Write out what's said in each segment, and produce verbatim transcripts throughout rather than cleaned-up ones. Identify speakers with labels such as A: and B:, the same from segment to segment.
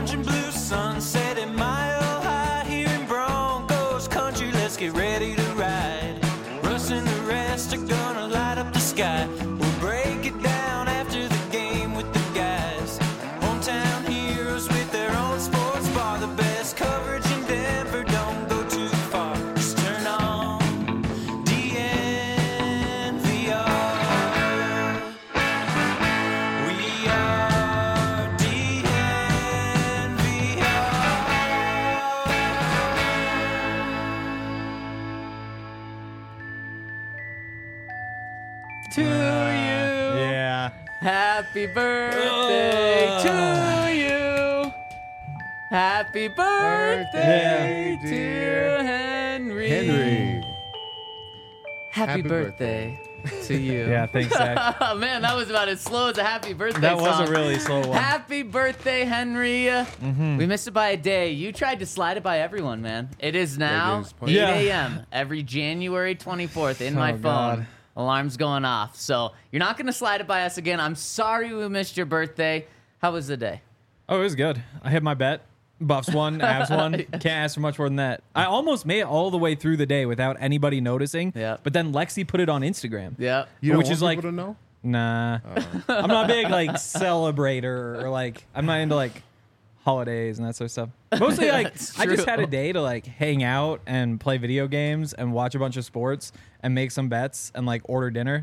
A: orange and blue sunset at Mile High here in Broncos country. Let's get ready to ride. Russ and the rest are gonna light up the sky. We'll break it down after the game with the guys. Hometown heroes with their own sports bar. The best coverage in Denver, don't go too far. Just turn on D N V R. We are D N V R.
B: To you.
C: Yeah.
B: Happy birthday to you. Happy birthday,
C: Yeah.
B: dear Henry.
D: Henry.
B: Happy,
D: Happy
B: birthday, to you.
C: Yeah, thanks, Zach.
B: Oh, man, that was about as slow as a happy birthday
C: That was
B: song.
C: a really slow one.
B: Happy birthday, Henry.
C: Mm-hmm.
B: We missed it by a day. You tried to slide it by everyone, man. It is now
D: game's point.
B: eight
C: Yeah.
B: a.m. every January twenty-fourth in my
C: Oh,
B: phone.
C: God.
B: Alarm's going off. So you're not going to slide it by us again. I'm sorry we missed your birthday. How was the day?
C: Oh, it was good. I hit my bet. Buffs won, Avs won. Can't ask for much more than that. I almost made it all the way through the day without anybody noticing.
B: Yeah.
C: But then Lexi put it on Instagram.
B: Yeah.
D: You don't
C: Which
D: want
C: is like-
D: people to know?
C: Nah. I'm not a big like celebrator or like I'm not into like holidays and that sort of stuff. Mostly like
B: That's
C: I just
B: true.
C: had a day to like hang out and play video games and watch a bunch of sports and make some bets and like order dinner.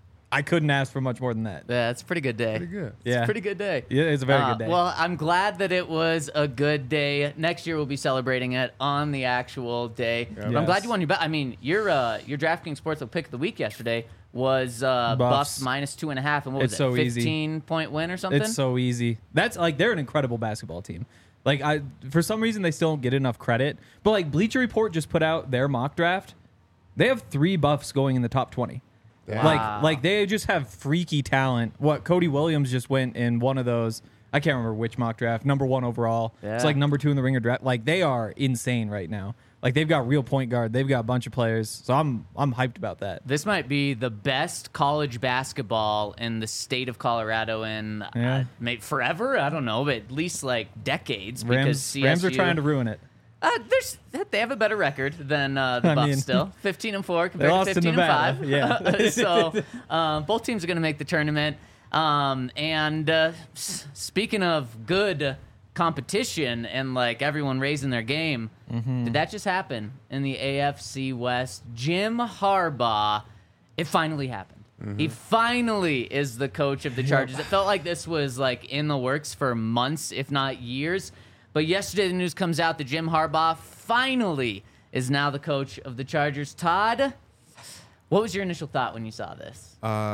C: I couldn't ask for much more than that.
B: Yeah, it's a pretty good day.
D: Pretty good.
B: It's
C: Yeah.
B: a pretty good day.
C: Yeah, it's a very
B: Uh,
C: good day.
B: Well, I'm glad that it was a good day. Next year we'll be celebrating it on the actual day. But I'm
C: Yes.
B: glad you won your bet. I mean, your uh, your DraftKings Sportsbook pick of the week yesterday was uh, Buffs.
C: Buffs.
B: minus two and a half, and what was
C: It's
B: it?
C: so easy.
B: fifteen point win or something.
C: It's so easy. That's like they're an incredible basketball team. Like I, for some reason, they still don't get enough credit. But like Bleacher Report just put out their mock draft. They have three Buffs going in the top twenty.
D: Wow.
C: Like like they just have freaky talent. What Cody Williams just went in one of those. I can't remember which mock draft. Number one overall. It's
B: Yeah.
C: like number two in the Ringer draft. Like they are insane right now. Like they've got real point guard. They've got a bunch of players. So I'm I'm hyped about that.
B: This might be the best college basketball in the state of Colorado in
C: Yeah.
B: uh, maybe forever. I don't know, but at least like decades. because
C: Rams
B: C S U,
C: Rams are trying to ruin it.
B: Uh, there's they have a better record than uh, the
C: I
B: Buffs
C: mean,
B: still. fifteen and four compared
C: lost
B: to
C: to
B: fifteen
C: Nevada,
B: and five.
C: yeah.
B: so um, both teams are going to make the tournament. Um, and uh, s- speaking of good competition and like everyone raising their game,
C: Mm-hmm.
B: did that just happen in the A F C West? Jim Harbaugh, it finally happened.
C: Mm-hmm.
B: He finally is the coach of the Chargers. It felt like this was like in the works for months, if not years. But yesterday the news comes out that Jim Harbaugh finally is now the coach of the Chargers. Todd, what was your initial thought when you saw this?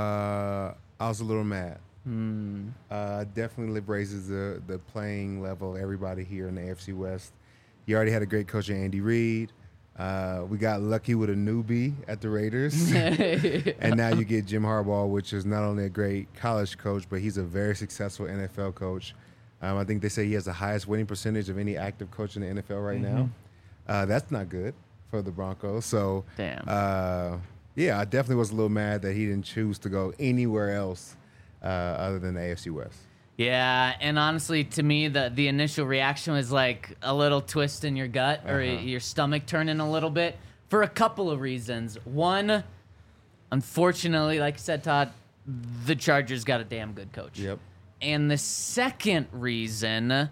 D: Uh, I was a little mad.
B: Hmm.
D: Uh, definitely raises the, the playing level of everybody here in the A F C West. You already had a great coach in Andy Reid. Uh, we got lucky with a newbie at the Raiders. And now you get Jim Harbaugh, which is not only a great college coach, but he's a very successful N F L coach. Um, I think they say he has the highest winning percentage of any active coach in the N F L right now. Uh, that's not good for the Broncos. So,
B: Damn.
D: Uh, yeah, I definitely was a little mad that he didn't choose to go anywhere else uh, other than the A F C West.
B: Yeah, and honestly, to me, the the initial reaction was like a little twist in your gut or
D: Uh-huh.
B: your stomach turning a little bit for a couple of reasons. One, unfortunately, like I said, Todd, the Chargers got a damn good coach.
D: Yep.
B: And the second reason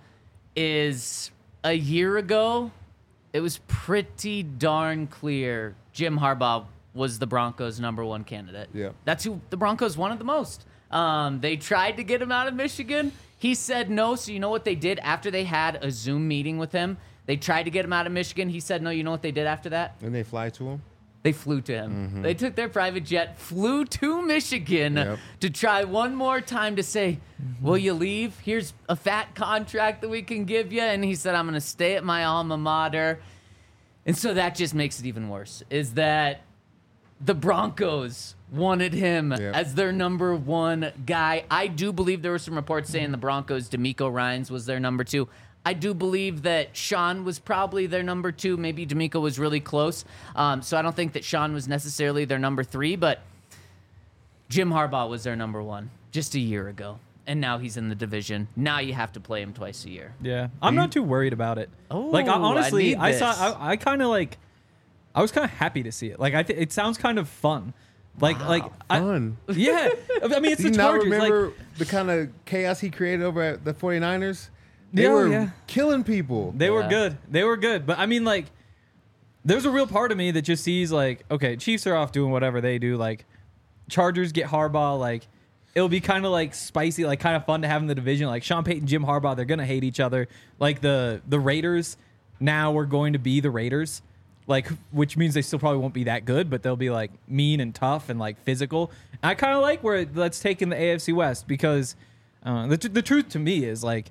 B: is a year ago, it was pretty darn clear Jim Harbaugh was the Broncos' number one candidate.
D: Yep.
B: That's who the Broncos wanted the most. Um, they tried to get him out of Michigan. He said no. So you know what they did after they had a Zoom meeting with him? They tried to get him out of Michigan. He said no. You know what they did after that?
D: And they fly to him.
B: They flew to him. They took their private jet, flew to Michigan
D: Yep.
B: to try one more time to say, will you leave? Here's a fat contract that we can give you. And he said, I'm going to stay at my alma mater. And so that just makes it even worse, is that the Broncos wanted him
D: Yep.
B: as their number one guy. I do believe there were some reports saying the Broncos, D'Amico Ryans was their number two. I do believe that Sean was probably their number two. Maybe D'Amico was really close. Um, so I don't think that Sean was necessarily their number three, but Jim Harbaugh was their number one just a year ago. and now he's in the division. Now you have to play him twice a year.
C: Yeah, I'm not too worried about it.
B: Oh,
C: like I,
B: I
C: honestly,
B: need
C: I, saw.
B: this.
C: I, I kind of like. I was kind of happy to see it. Like I, th- it sounds kind of fun. Like like I,
D: Fun.
C: yeah. I mean, it's
D: Do you
C: the
D: not
C: Chargers.
D: remember
C: Like
D: the kind of chaos he created over at the 49ers? They
C: Yeah,
D: were
C: yeah.
D: killing people.
C: they were
B: Yeah.
C: good. They were good. But I mean, like, there's a real part of me that just sees like, okay, Chiefs are off doing whatever they do. Like, Chargers get Harbaugh. Like, it'll be kind of like spicy, like kind of fun to have in the division. Like Sean Payton, Jim Harbaugh, they're gonna hate each other. Like the the Raiders now are going to be the Raiders. Like, which means they still probably won't be that good, but they'll be like mean and tough and like physical. And I kind of like where it, that's taking the A F C West because uh, the, t- the truth to me is like,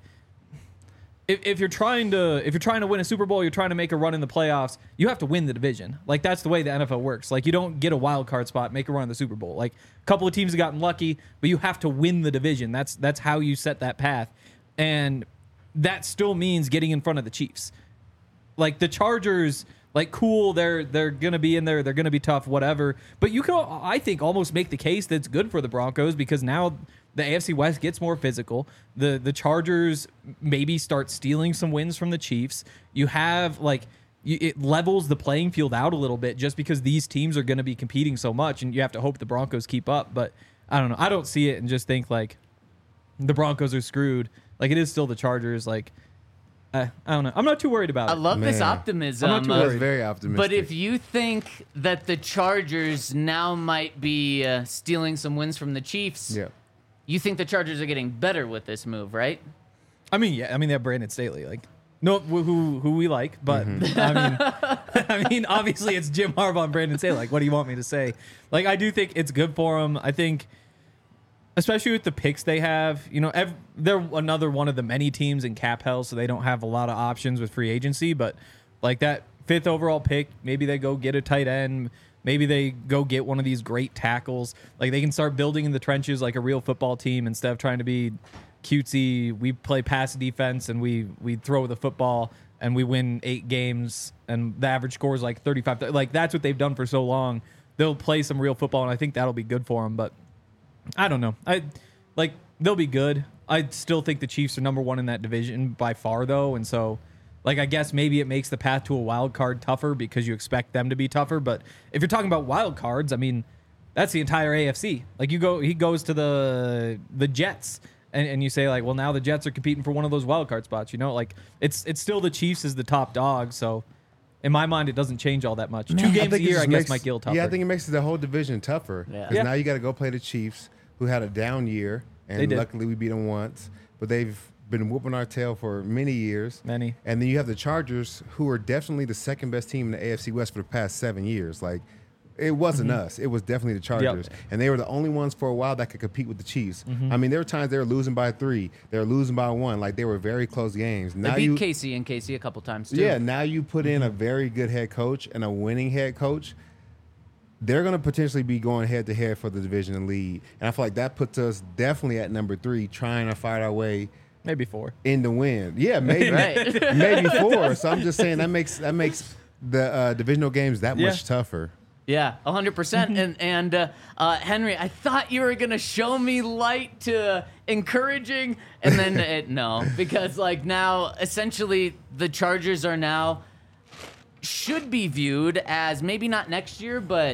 C: if, if you're trying to if you're trying to win a Super Bowl, you're trying to make a run in the playoffs, you have to win the division. Like that's the way the N F L works. Like you don't get a wild card spot, make a run in the Super Bowl. Like a couple of teams have gotten lucky, but you have to win the division. That's that's how you set that path, and that still means getting in front of the Chiefs. Like the Chargers, like cool, they're they're gonna be in there, they're gonna be tough, whatever. But you can, I think, almost make the case that's good for the Broncos because now the A F C West gets more physical. The the Chargers maybe start stealing some wins from the Chiefs. You have like you, it levels the playing field out a little bit just because these teams are going to be competing so much, and you have to hope the Broncos keep up. But I don't know, I don't see it and just think like the Broncos are screwed. Like it is still the Chargers. Like I, I don't know. I'm not too worried about
B: I
C: it.
B: love this
D: Man.
B: optimism.
C: I'm not too
B: uh,
D: That's
C: worried.
D: very optimistic.
B: But if you think that the Chargers now might be uh, stealing some wins from the Chiefs,
D: yeah.
B: you think the Chargers are getting better with this move, right?
C: I mean, yeah. I mean, they have Brandon Staley. Like, no, who who, who we like, but
D: Mm-hmm.
C: I mean, I mean, obviously it's Jim Harbaugh and Brandon Staley. Like, what do you want me to say? Like, I do think it's good for them. I think, especially with the picks they have, you know, ev- they're another one of the many teams in cap hell, so they don't have a lot of options with free agency. But like that fifth overall pick, maybe they go get a tight end. Maybe they go get one of these great tackles. Like they can start building in the trenches like a real football team instead of trying to be cutesy. We play pass defense and we we throw the football and we win eight games and the average score is like thirty-five. Like that's what they've done for so long. They'll play some real football and I think that'll be good for them. But I don't know. I like they'll be good. I still think the Chiefs are number one in that division by far though, and so. Like, I guess maybe it makes the path to a wild card tougher because you expect them to be tougher. But if you're talking about wild cards, I mean, that's the entire A F C. Like, you go, he goes to the the Jets, and, and you say, like, well, now the Jets are competing for one of those wild card spots. You know, like, it's it's still the Chiefs as the top dog. So, in my mind, it doesn't change all that much. Two
D: I
C: games a
D: think it
C: year,
D: just
C: I guess,
D: makes-
C: might get a little tougher.
D: Yeah, I think it makes the whole division tougher.
B: Yeah.
D: Because
C: Yeah.
D: now you got to go play the Chiefs, who had a down year,
C: They
D: and
C: did.
D: luckily we beat them once. But they've been whooping our tail for many years.
C: Many.
D: And then you have the Chargers, who are definitely the second best team in the A F C West for the past seven years. Like, it wasn't us. It was definitely the Chargers. And they were the only ones for a while that could compete with the Chiefs. I mean, there were times they were losing by three. They were losing by one. Like, they were very close games.
B: They
D: Now
B: beat
D: you,
B: Casey and Casey a couple times too.
D: yeah, now you put in a very good head coach and a winning head coach. They're going to potentially be going head to head for the division and lead. And I feel like that puts us definitely at number three, trying to fight our way
C: Maybe four.
D: in the win. Yeah, maybe
B: Right.
D: maybe four. So I'm just saying that makes that makes the uh, divisional games that
C: Yeah.
D: much tougher.
B: Yeah, one hundred percent. And and uh, uh, Henry, I thought you were gonna show me light to encouraging, and then it, no, because like now essentially the Chargers are now should be viewed as maybe not next year, but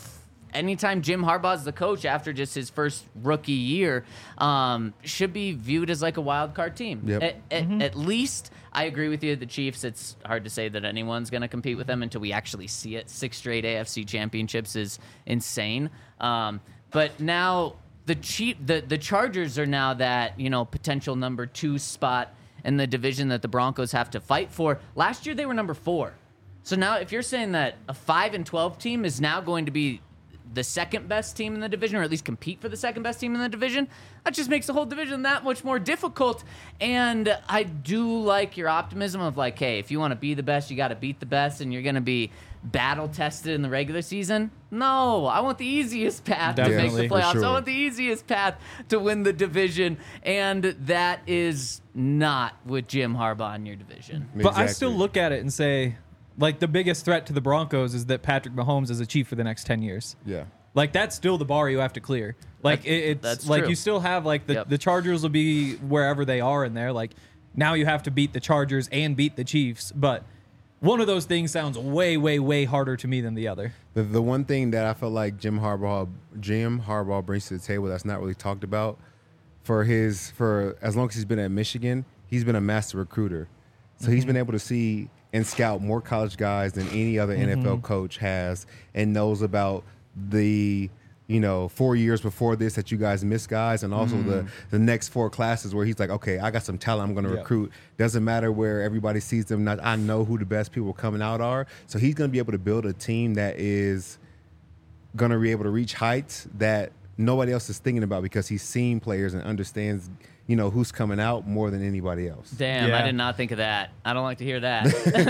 B: anytime Jim Harbaugh's the coach after just his first rookie year, um, should be viewed as like a wild card team.
D: Yep.
B: At, at, at least I agree with you. The Chiefs, it's hard to say that anyone's going to compete with them until we actually see it. Six straight A F C championships is insane. Um, but now the Chief, the, the Chargers are now that, you know, potential number two spot in the division that the Broncos have to fight for. Last year they were number four. So now if you're saying that a five and twelve team is now going to be the second best team in the division, or at least compete for the second best team in the division, that just makes the whole division that much more difficult. And I do like your optimism of like, hey, if you want to be the best, you got to beat the best, and you're going to be battle tested in the regular season. No, I want the easiest path to
C: Definitely.
B: make the
D: For
B: playoffs.
D: sure.
B: I want the easiest path to win the division, and that is not with Jim Harbaugh in your division.
C: But I
D: Exactly.
C: still look at it and say, like, the biggest threat to the Broncos is that Patrick Mahomes is a Chief for the next ten years.
D: Yeah.
C: Like that's still the bar you have to clear. Like
B: That-
C: it, it's
B: that's
C: like
B: true.
C: you still have like the,
B: Yep.
C: the Chargers will be wherever they are in there. Like now you have to beat the Chargers and beat the Chiefs, but one of those things sounds way, way, way harder to me than the other.
D: The, the one thing that I feel like Jim Harbaugh Jim Harbaugh brings to the table that's not really talked about for his for as long as he's been at Michigan, he's been a master recruiter. So he's been able to see and scout more college guys than any other N F L coach has, and knows about the you know four years before this that you guys missed guys, and also the the next four classes where he's like, okay, I got some talent I'm going to
C: Yeah.
D: recruit. Doesn't matter where everybody sees them. Not, I know who the best people coming out are. So he's going to be able to build a team that is going to be able to reach heights that nobody else is thinking about because he's seen players and understands, you know, who's coming out more than anybody else.
B: Damn,
C: Yeah.
B: I did not think of that. I don't like to hear that.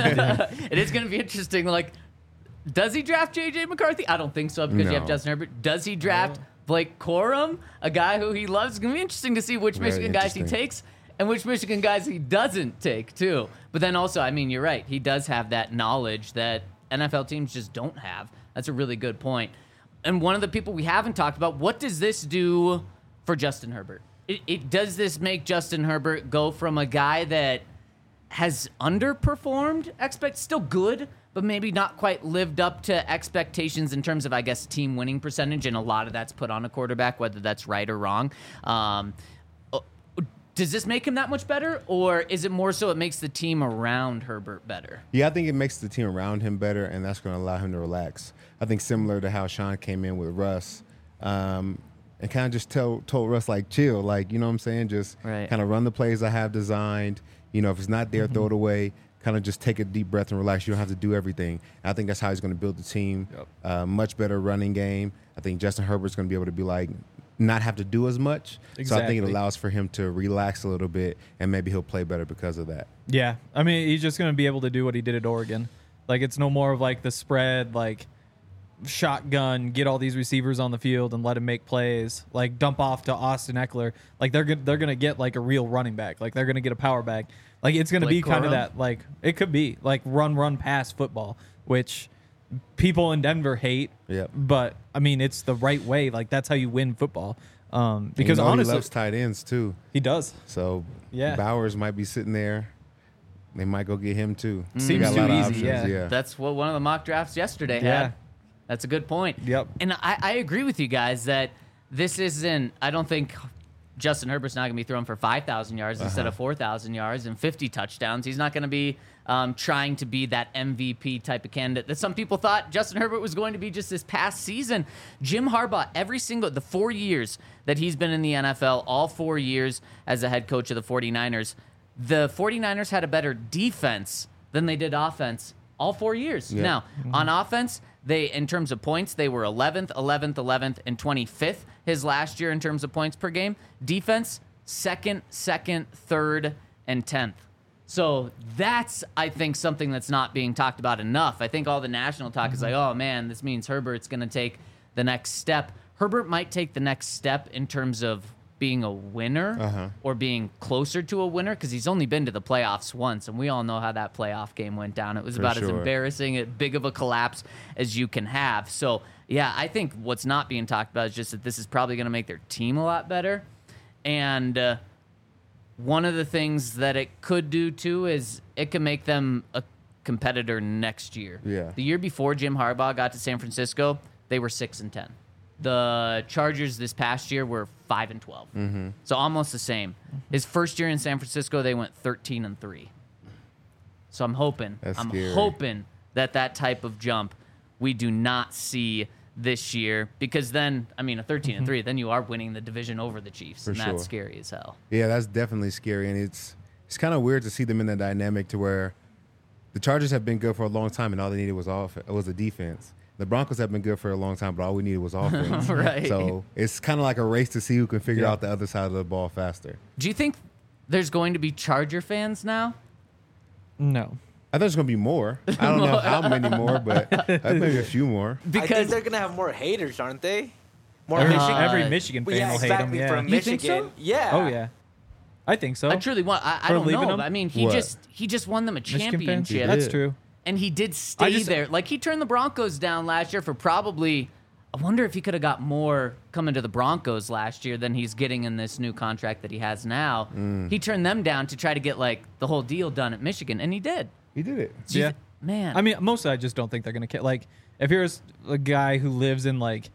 B: It is going to be interesting. Like, does he draft J J McCarthy? I don't think so because you have
D: No.
B: Justin Herbert. Does he draft Blake Corum, a guy who he loves? It's going to be interesting to see which
D: Very
B: Michigan guys he
D: interesting.
B: takes and which Michigan guys he doesn't take, too. But then also, I mean, you're right. He does have that knowledge that N F L teams just don't have. That's a really good point. And one of the people we haven't talked about, what does this do for Justin Herbert? It, it does this make Justin Herbert go from a guy that has underperformed expect still good, but maybe not quite lived up to expectations in terms of, I guess, team winning percentage, and a lot of that's put on a quarterback, whether that's right or wrong. Um, uh, does this make him that much better, or is it more so it makes the team around Herbert better?
D: Yeah, I think it makes the team around him better, and that's going to allow him to relax. I think similar to how Sean came in with Russ, um, and kind of just tell, told Russ, like, chill, like, you know what I'm saying? Just
B: Right.
D: kind of run the plays I have designed. You know, if it's not there, throw it away. Kind of just take a deep breath and relax. You don't have to do everything. And I think that's how he's going to build the team.
C: Yep.
D: Uh, much better running game. I think Justin Herbert's going to be able to be like, not have to do as much. So I think
C: Exactly.
D: it allows for him to relax a little bit, and maybe he'll play better because of that.
C: Yeah, I mean, he's just going to be able to do what he did at Oregon. Like, it's no more of like the spread, like shotgun, get all these receivers on the field and let him make plays. Like dump off to Austin Eckler. Like they're good, they're going to get like a real running back. Like they're going to get a power back. Like it's going to be
B: Blake
C: kind of
B: Corum?
C: that. Like it could be like run, run, pass football, which people in Denver hate.
D: Yep.
C: But I mean, it's the right way. Like that's how you win football. Um,
D: And
C: because
D: you know
C: honestly,
D: he loves tight ends too.
C: he does.
D: So
C: Yeah.
D: Bowers might be sitting there. They might go get him too. They
C: Seems
D: got a
C: too
D: lot of
C: easy,
D: options,
C: yeah.
B: That's what one of the mock drafts yesterday
C: Yeah.
B: had. That's a good point.
C: Yep.
B: And I, I agree with you guys that this isn't, I don't think Justin Herbert's not going to be throwing for five thousand yards
C: Uh-huh.
B: instead of four thousand yards and fifty touchdowns. He's not going to be um, trying to be that M V P type of candidate that some people thought Justin Herbert was going to be just this past season. Jim Harbaugh, every single, the four years that he's been in the N F L, all four years as a head coach of the 49ers, the 49ers had a better defense than they did offense all four years.
D: Yeah.
B: Now, on offense, they, in terms of points, they were eleventh, eleventh, eleventh, and twenty-fifth his last year in terms of points per game. Defense, second, second, third, and tenth. So that's, I think, something that's not being talked about enough. I think all the national talk is like, oh, man, this means Herbert's going to take the next step. Herbert might take the next step in terms of being a winner
D: Uh-huh.
B: or being closer to a winner because he's only been to the playoffs once, and we all know how that playoff game went down. It was
D: For
B: about as
D: sure.
B: embarrassing, as big of a collapse as you can have. So, yeah, I think what's not being talked about is just that this is probably going to make their team a lot better. And uh, one of the things that it could do, too, is it can make them a competitor next year.
D: Yeah.
B: The year before Jim Harbaugh got to San Francisco, they were six and ten. The Chargers this past year were five and twelve, mm-hmm. so almost the same. His first year in San Francisco, they went thirteen and three. So I'm hoping,
D: That's
B: I'm
D: scary.
B: hoping that that type of jump we do not see this year, because then, I mean, a thirteen and three, then you are winning the division over the Chiefs,
D: For
B: and that's
D: sure.
B: scary as hell.
D: Yeah, that's definitely scary, and it's it's kind of weird to see them in that dynamic to where the Chargers have been good for a long time, and all they needed was off was a defense. The Broncos have been good for a long time, but all we needed was offense.
B: Right.
D: So it's kind of like a race to see who can figure
C: Yeah.
D: out the other side of the ball faster.
B: Do you think there's going to be Charger fans now?
C: No.
D: I think there's going to be more. I don't know how many more, but uh, maybe a few more.
E: I think
B: Because
E: they're gonna have more haters, aren't they? More
C: Every,
E: Michigan.
C: every Michigan fan
E: Well, yeah,
C: will hate
E: exactly.
C: him. Yeah.
E: From
B: You think
E: Michigan.
B: so?
E: Yeah.
C: Oh yeah, I think so.
B: I truly want. I, I
C: For
B: don't
C: leaving
B: know.
C: him?
B: but I mean, he
D: What?
B: just he just won them a
C: Michigan fans?
B: championship.
C: That's
D: did.
C: true.
B: And he did stay
C: just-
B: there. Like, he turned the Broncos down last year for probably I wonder if he could have got more coming to the Broncos last year than he's getting in this new contract that he has now.
D: Mm.
B: He turned them down to try to get like the whole deal done at Michigan, and he did.
D: He did it.
B: So you
C: Yeah.
B: th- man.
C: I mean, mostly I just don't think they're gonna care. Like, if you're s- a guy who lives in like,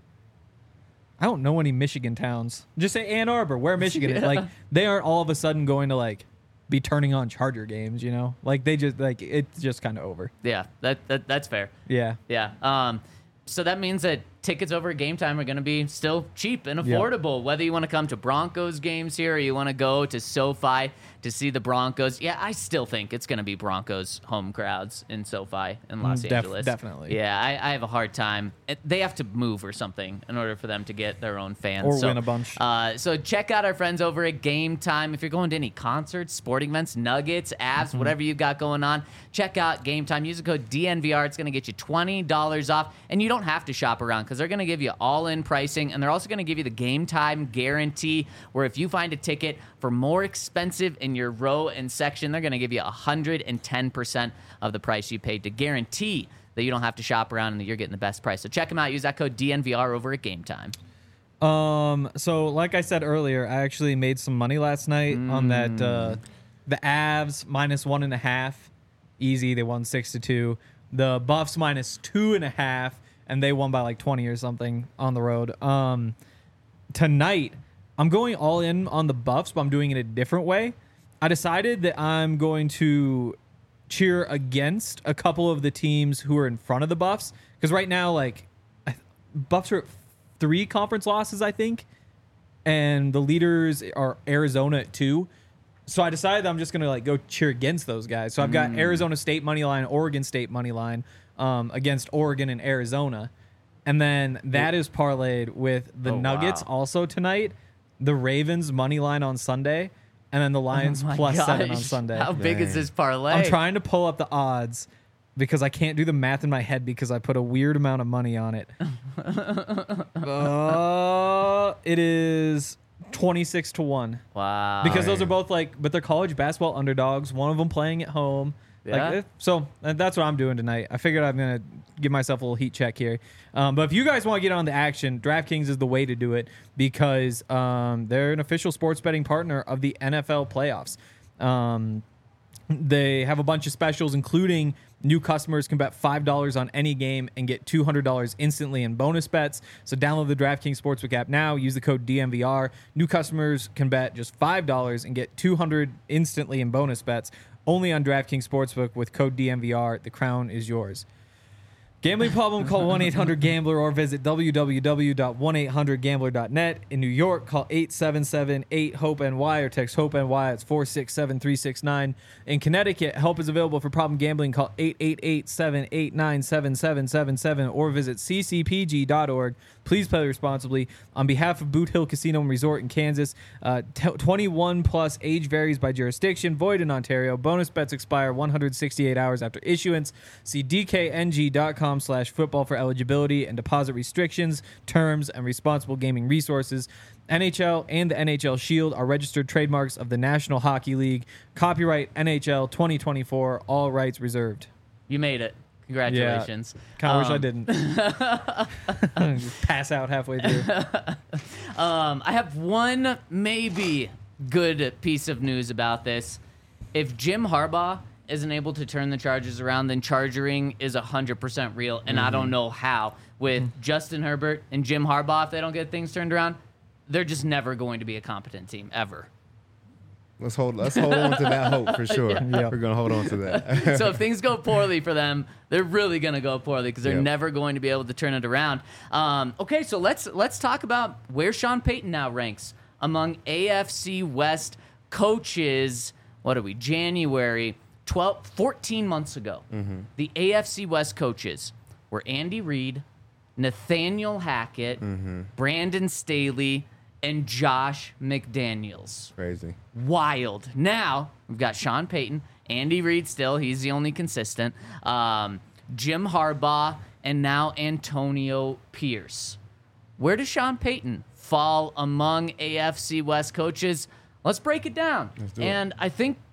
C: I don't know any Michigan towns. Just say Ann Arbor, where Michigan is.
B: Yeah.
C: Like, they aren't all of a sudden going to like be turning on Charger games. You know, like they just like it's just kind of over.
B: yeah, that, that that's fair.
C: Yeah.
B: Yeah. Um, so that means that tickets over at Game Time are going to be still cheap and affordable. Whether you want to come to Broncos games here or you want to go to SoFi to see the Broncos. Yeah, I still think it's going to be Broncos home crowds in SoFi in Los
C: Mm, def-
B: Angeles.
C: definitely.
B: Yeah, I, I have a hard time. It, they have to move or something in order for them to get their own fans.
C: Or
B: so,
C: win a bunch.
B: Uh, so check out our friends over at Game Time. If you're going to any concerts, sporting events, Nuggets, Avs,
C: Mm-hmm.
B: whatever you've got going on, check out Game Time. Use the code D N V R. It's going to get you twenty dollars off. And you don't have to shop around because they're going to give you all-in pricing. And they're also going to give you the Game Time guarantee, where if you find a ticket for more expensive in your row and section, they're going to give you one hundred ten percent of the price you paid to guarantee that you don't have to shop around and that you're getting the best price. So check them out. Use that code D N V R over at Game Time.
C: Um. So, like I said earlier, I actually made some money last night on that. Uh, the Avs minus one and a half, easy. They won six to two. The Buffs minus two and a half, and they won by like twenty or something on the road. Um, tonight I'm going all in on the Buffs, but I'm doing it a different way. I decided that I'm going to cheer against a couple of the teams who are in front of the Buffs, because right now, like, I- Buffs are at three conference losses, I think, and the leaders are Arizona at two. So I decided that I'm just gonna like go cheer against those guys. So I've got Arizona State money line, Oregon State money line um, against Oregon and Arizona, and then that is parlayed with the
B: Oh,
C: Nuggets
B: wow.
C: also tonight, the Ravens money line on Sunday, and then the Lions
B: Oh my
C: plus seven on
B: gosh.
C: Sunday.
B: How big is
D: Dang.
B: this parlay?
C: I'm trying to pull up the odds because I can't do the math in my head because I put a weird amount of money on it. uh, it is twenty-six to one.
B: Wow.
C: Because those
D: Dang.
C: are both like, but they're college basketball underdogs. One of them playing at home.
B: Yeah.
C: Like, eh, so uh, that's what I'm doing tonight. I figured I'm gonna give myself a little heat check here. Um, but if you guys want to get on the action, DraftKings is the way to do it because um, they're an official sports betting partner of the N F L playoffs. Um, they have a bunch of specials, including new customers can bet five dollars on any game and get two hundred dollars instantly in bonus bets. So download the DraftKings Sportsbook app now. Use the code D N V R. New customers can bet just five dollars and get two hundred dollars instantly in bonus bets. Only on DraftKings Sportsbook with code D N V R. The crown is yours. Gambling problem? Call one eight hundred gambler or visit w w w dot one eight hundred gambler dot net. In New York, call eight seven seven eight hope N Y or text HOPE-NY. It's four six seven three six nine. In Connecticut, help is available for problem gambling. Call eight eight eight seven eight nine seven seven seven seven or visit c c p g dot org. Please play responsibly. On behalf of Boot Hill Casino and Resort in Kansas, uh, t- twenty-one plus, age varies by jurisdiction, void in Ontario. Bonus bets expire one hundred sixty-eight hours after issuance. See d k n g dot com slash football for eligibility and deposit restrictions, terms, and responsible gaming resources. N H L and the N H L Shield are registered trademarks of the National Hockey League. Copyright N H L twenty twenty-four, all rights reserved.
B: You made it. Congratulations.
C: Kind of wish I
B: Um,
C: didn't. Just pass out halfway through.
B: Um, I have one maybe good piece of news about this. If Jim Harbaugh isn't able to turn the Chargers around, then chargering is one hundred percent real, and I don't know how. With Justin Herbert and Jim Harbaugh, if they don't get things turned around, they're just never going to be a competent team, ever.
D: Let's hold. Let's hold on to that hope for sure.
C: Yeah.
D: We're gonna hold on to that.
B: So if things go poorly for them, they're really going to go poorly because they're
D: Yep.
B: never going to be able to turn it around. Um, okay, so let's let's talk about where Sean Payton now ranks among A F C West coaches. What are we? January twelve, fourteen months ago. The A F C West coaches were Andy Reid, Nathaniel Hackett, Brandon Staley, and Josh McDaniels.
D: Crazy.
B: Wild. Now we've got Sean Payton, Andy Reid still, he's the only consistent, um, Jim Harbaugh, and now Antonio Pierce. Where does Sean Payton fall among A F C West coaches? Let's break it down.
D: Let's do it.
B: And I think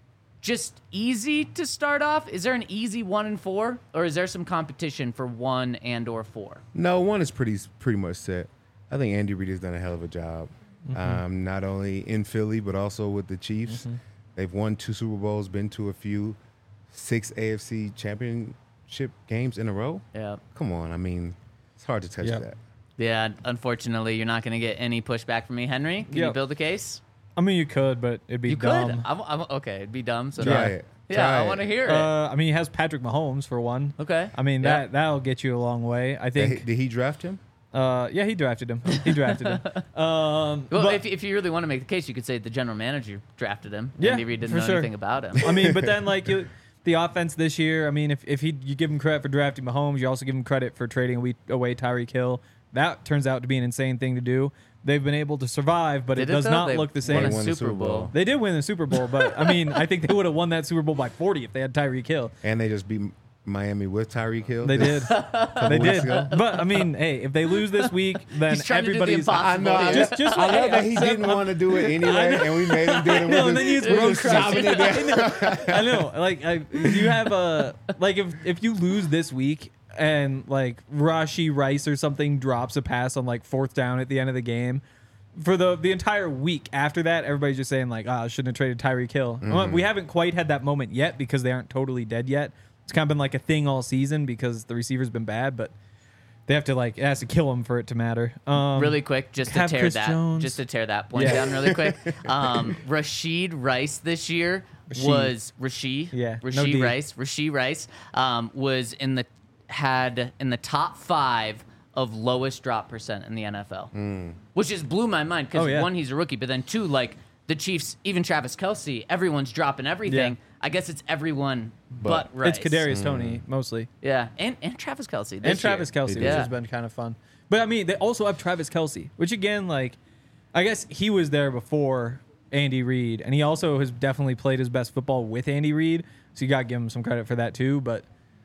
B: just easy to start off? Is there an easy one and four, or is there some competition for one and or four?
D: No, one is pretty pretty much set. I think Andy Reid has done a hell of a job,
C: Mm-hmm.
D: um, not only in Philly but also with the Chiefs.
C: Mm-hmm.
D: They've won two Super Bowls, been to a few, six A F C championship games in a row.
B: Yeah.
D: Come on, I mean, it's hard to touch
C: Yep.
D: that.
B: Yeah, unfortunately, you're not going to get any pushback from me. Henry, can you
C: Yep.
B: build a case?
C: I mean, you could, but it'd be
B: You
C: dumb.
B: could. I'm, I'm, okay, it'd be dumb. So
D: Try
B: no.
D: it.
B: Yeah,
D: Try
B: I
D: it.
B: want to hear it.
C: Uh, I mean, he has Patrick Mahomes for one.
B: okay.
C: I mean,
B: Yeah.
C: that that'll get you a long way. I
D: Did he,
C: think.
D: did he draft him?
C: Uh, yeah, he drafted him. He drafted him. Um,
B: Well,
C: but-
B: if, if you really want to make the case, you could say the general manager drafted him.
C: Yeah,
B: Andy Reid didn't
C: for
B: know
C: sure.
B: anything about him.
C: I mean, but then like you, the offense this year. I mean, if if he you give him credit for drafting Mahomes, you also give him credit for trading away, away Tyreek Hill. That turns out to be an insane thing to do. They've been able to survive, but
B: Did
C: it does
B: though?
C: not
B: They
C: look the
B: won
C: same.
B: a
D: They won the
B: Super
D: Super
B: Bowl.
D: Bowl.
C: They did win the Super Bowl, but I mean, I think they would have won that Super Bowl by forty if they had Tyreek Hill.
D: And they just beat Miami with Tyreek Hill.
C: They did. They
D: weeks
C: did.
D: ago.
C: But I mean, hey, if they lose this week, then
B: He's trying to do the
C: everybody's.
B: impossible.
D: I know. I,
C: Just-
D: just,
C: just
D: I
C: like,
D: love
C: hey,
D: that he
C: I'm-
D: didn't want to do it anyway, and we made him do it.
C: No,
D: We're
C: and then you
D: just-
C: just
D: we're
C: roast
D: just chopping it down.
C: I know. Like, I, if you have a like, if if you lose this week and like Rashi Rice or something drops a pass on like fourth down at the end of the game, for the the entire week after that, everybody's just saying like, "Ah, I shouldn't have traded Tyreek Hill." Well, we haven't quite had that moment yet because they aren't totally dead yet. It's kind of been like a thing all season because the receiver's been bad, but they have to like it has to kill him for it to matter. Um,
B: really quick, just to
C: have
B: tear
C: Chris
B: that,
C: Jones.
B: just to tear that point
C: Yeah.
B: down really quick. Um, Rashid Rice this year
C: Rasheed.
B: was Rashid.
C: Yeah, no
B: Rashid
C: D.
B: Rice. Rashid Rice um, was in the had in the top five of lowest drop percent in the N F L, which just blew my mind because
C: Oh, yeah.
B: one, he's a rookie, but then two, like the Chiefs, even Travis Kelce, everyone's dropping everything.
C: Yeah.
B: I guess it's everyone but,
D: But-
B: Rice.
C: It's Kadarius Tony mostly.
B: Yeah, and and Travis Kelce. This
C: and Travis
B: year.
C: Kelsey, which
B: Yeah.
C: has been kind of fun. But I mean, they also have Travis Kelsey, which again, like, I guess he was there before Andy Reid, and he also has definitely played his best football with Andy Reid, so you got to give him some credit for that too. But